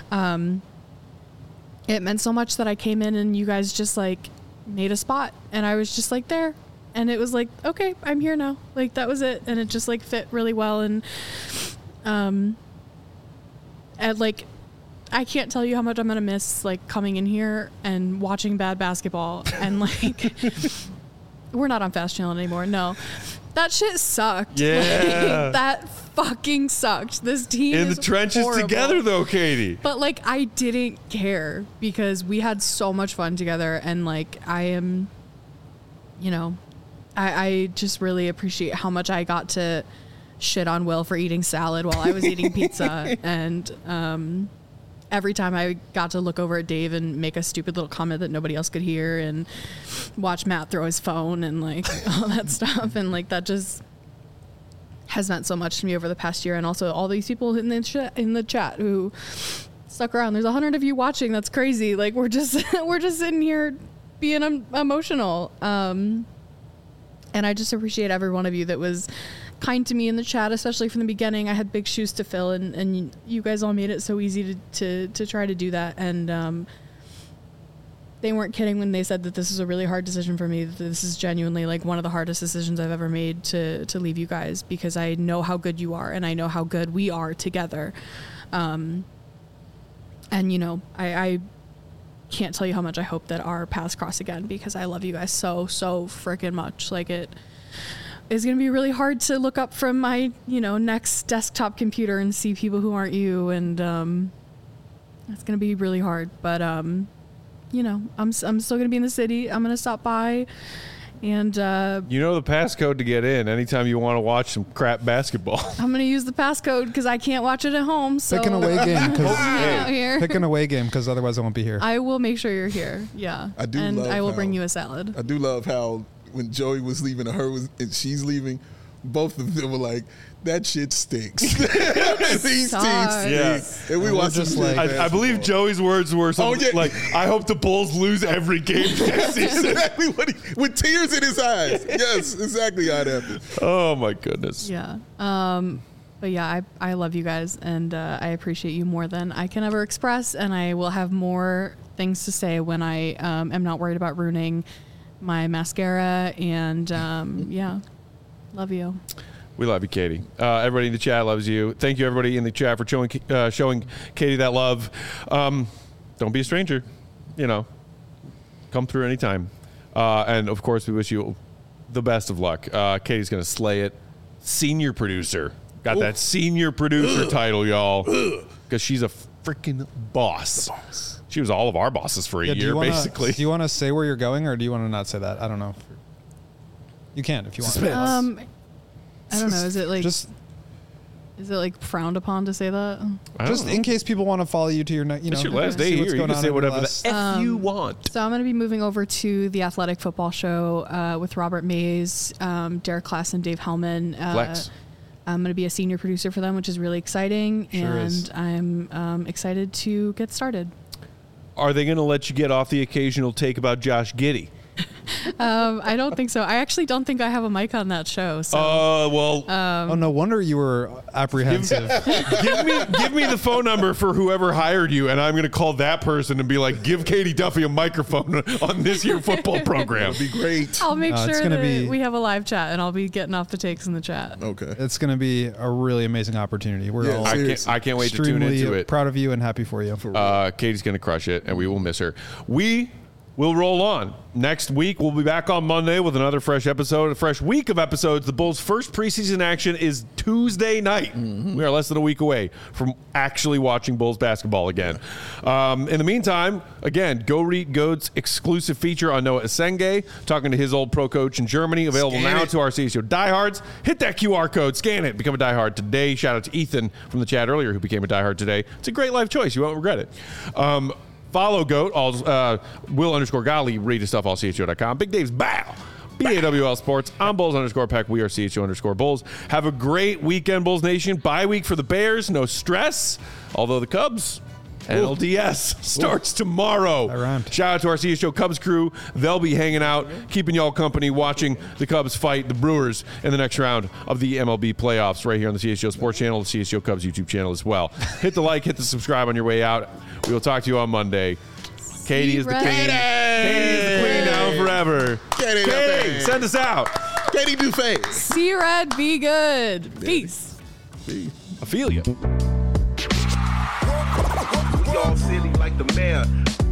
it meant so much that I came in and you guys just made a spot, and I was just there, and it was okay, I'm here now. That was it, and it just fit really well, and I can't tell you how much I'm gonna miss coming in here and watching bad basketball, and we're not on Fast Channel anymore. No, that shit sucked. Yeah, that fucking sucked. This team in is the trenches horrible. together, though, Katie. But I didn't care because we had so much fun together, and I am, I just really appreciate how much I got to shit on Will for eating salad while I was eating pizza, and every time I got to look over at Dave and make a stupid little comment that nobody else could hear, and watch Matt throw his phone and all that stuff, and that just has meant so much to me over the past year. And also all these people in the chat who stuck around. There's 100 of you watching. That's crazy. We're just sitting here being emotional. And I just appreciate every one of you that was kind to me in the chat, especially from the beginning. I had big shoes to fill, and you guys all made it so easy to try to do that. And they weren't kidding when they said that this is a really hard decision for me. This is genuinely one of the hardest decisions I've ever made to leave you guys, because I know how good you are, and I know how good we are together. And I can't tell you how much I hope that our paths cross again, because I love you guys so freaking much. It is going to be really hard to look up from my, next desktop computer and see people who aren't you. And it's going to be really hard. But, I'm still going to be in the city. I'm going to stop by. And the passcode to get in anytime you want to watch some crap basketball. I'm going to use the passcode because I can't watch it at home. So Pick an away game. out here. Pick an away game, because otherwise I won't be here. I will make sure you're here. Yeah. I do and love I will how- bring you a salad. I do love how when Joey was leaving and and she's leaving, both of them were like, that shit stinks. These teams stink. Yeah. And we watched just just like- I believe Joey's words were something Oh, yeah. I hope the Bulls lose every game this season. exactly what with tears in his eyes. Yes, exactly how it happened. Oh, my goodness. Yeah. But yeah, I love you guys, and I appreciate you more than I can ever express, and I will have more things to say when I am not worried about ruining my mascara, and yeah, love you. We love you, Katie. Everybody in the chat loves you. Thank you, everybody in the chat, for showing Katie that love. Don't be a stranger. Come through anytime. And, of course, we wish you the best of luck. Katie's going to slay it. Senior producer. Got that senior producer title, y'all. Because she's a freaking boss. She was all of our bosses for a year, basically. Do you want to say where you're going, or do you want to not say that? I don't know. You can if you want. Suspense. I don't know. Is it Just is it frowned upon to say that? Just in case people want to follow you to your, It's your last day see what's here. You going can on say in your whatever last- the F you want. So I'm going to be moving over to the Athletic Football Show with Robert Mays, Derek Klass, and Dave Hellman. Flex. I'm going to be a senior producer for them, which is really exciting. Sure and is. I'm excited to get started. Are they going to let you get off the occasional take about Josh Giddey? I don't think so. I actually don't think I have a mic on that show. So. Oh, no wonder you were apprehensive. give me the phone number for whoever hired you, and I'm going to call that person and be like, give Katie Duffy a microphone on this year football program. That'd be great. I'll make sure that we have a live chat, and I'll be getting off the takes in the chat. Okay. It's going to be a really amazing opportunity. We're all I can't wait to tune into it. Proud of you and happy for you. Katie's going to crush it, and we will miss her. We'll roll on. Next week, we'll be back on Monday with another fresh episode, a fresh week of episodes. The Bulls' first preseason action is Tuesday night. Mm-hmm. We are less than a week away from actually watching Bulls basketball again. In the meantime, again, Go Read Goat's exclusive feature on Noah Esenge, talking to his old pro coach in Germany, available now to our CSO diehards. Hit that QR code, scan it, become a diehard today. Shout out to Ethan from the chat earlier who became a diehard today. It's a great life choice. You won't regret it. Follow Goat, Will_Golly, read his stuff, allcho.com. Big Dave's Bow, BAWL Sports. I'm Bulls_Peck. We are CHO_Bulls. Have a great weekend, Bulls Nation. Bye week for the Bears. No stress. Although the Cubs, NLDS, starts tomorrow. Shout out to our CSO Cubs crew. They'll be hanging out, keeping y'all company, watching the Cubs fight the Brewers in the next round of the MLB playoffs right here on the CSO Sports Channel, the CSO Cubs YouTube channel as well. Hit the like, hit the subscribe on your way out. We will talk to you on Monday. Katie is the queen. Katie is the queen now forever. Katie, send us out. Katie Dufay. See red, be good. Peace. I feel you. Y'all silly like the mayor.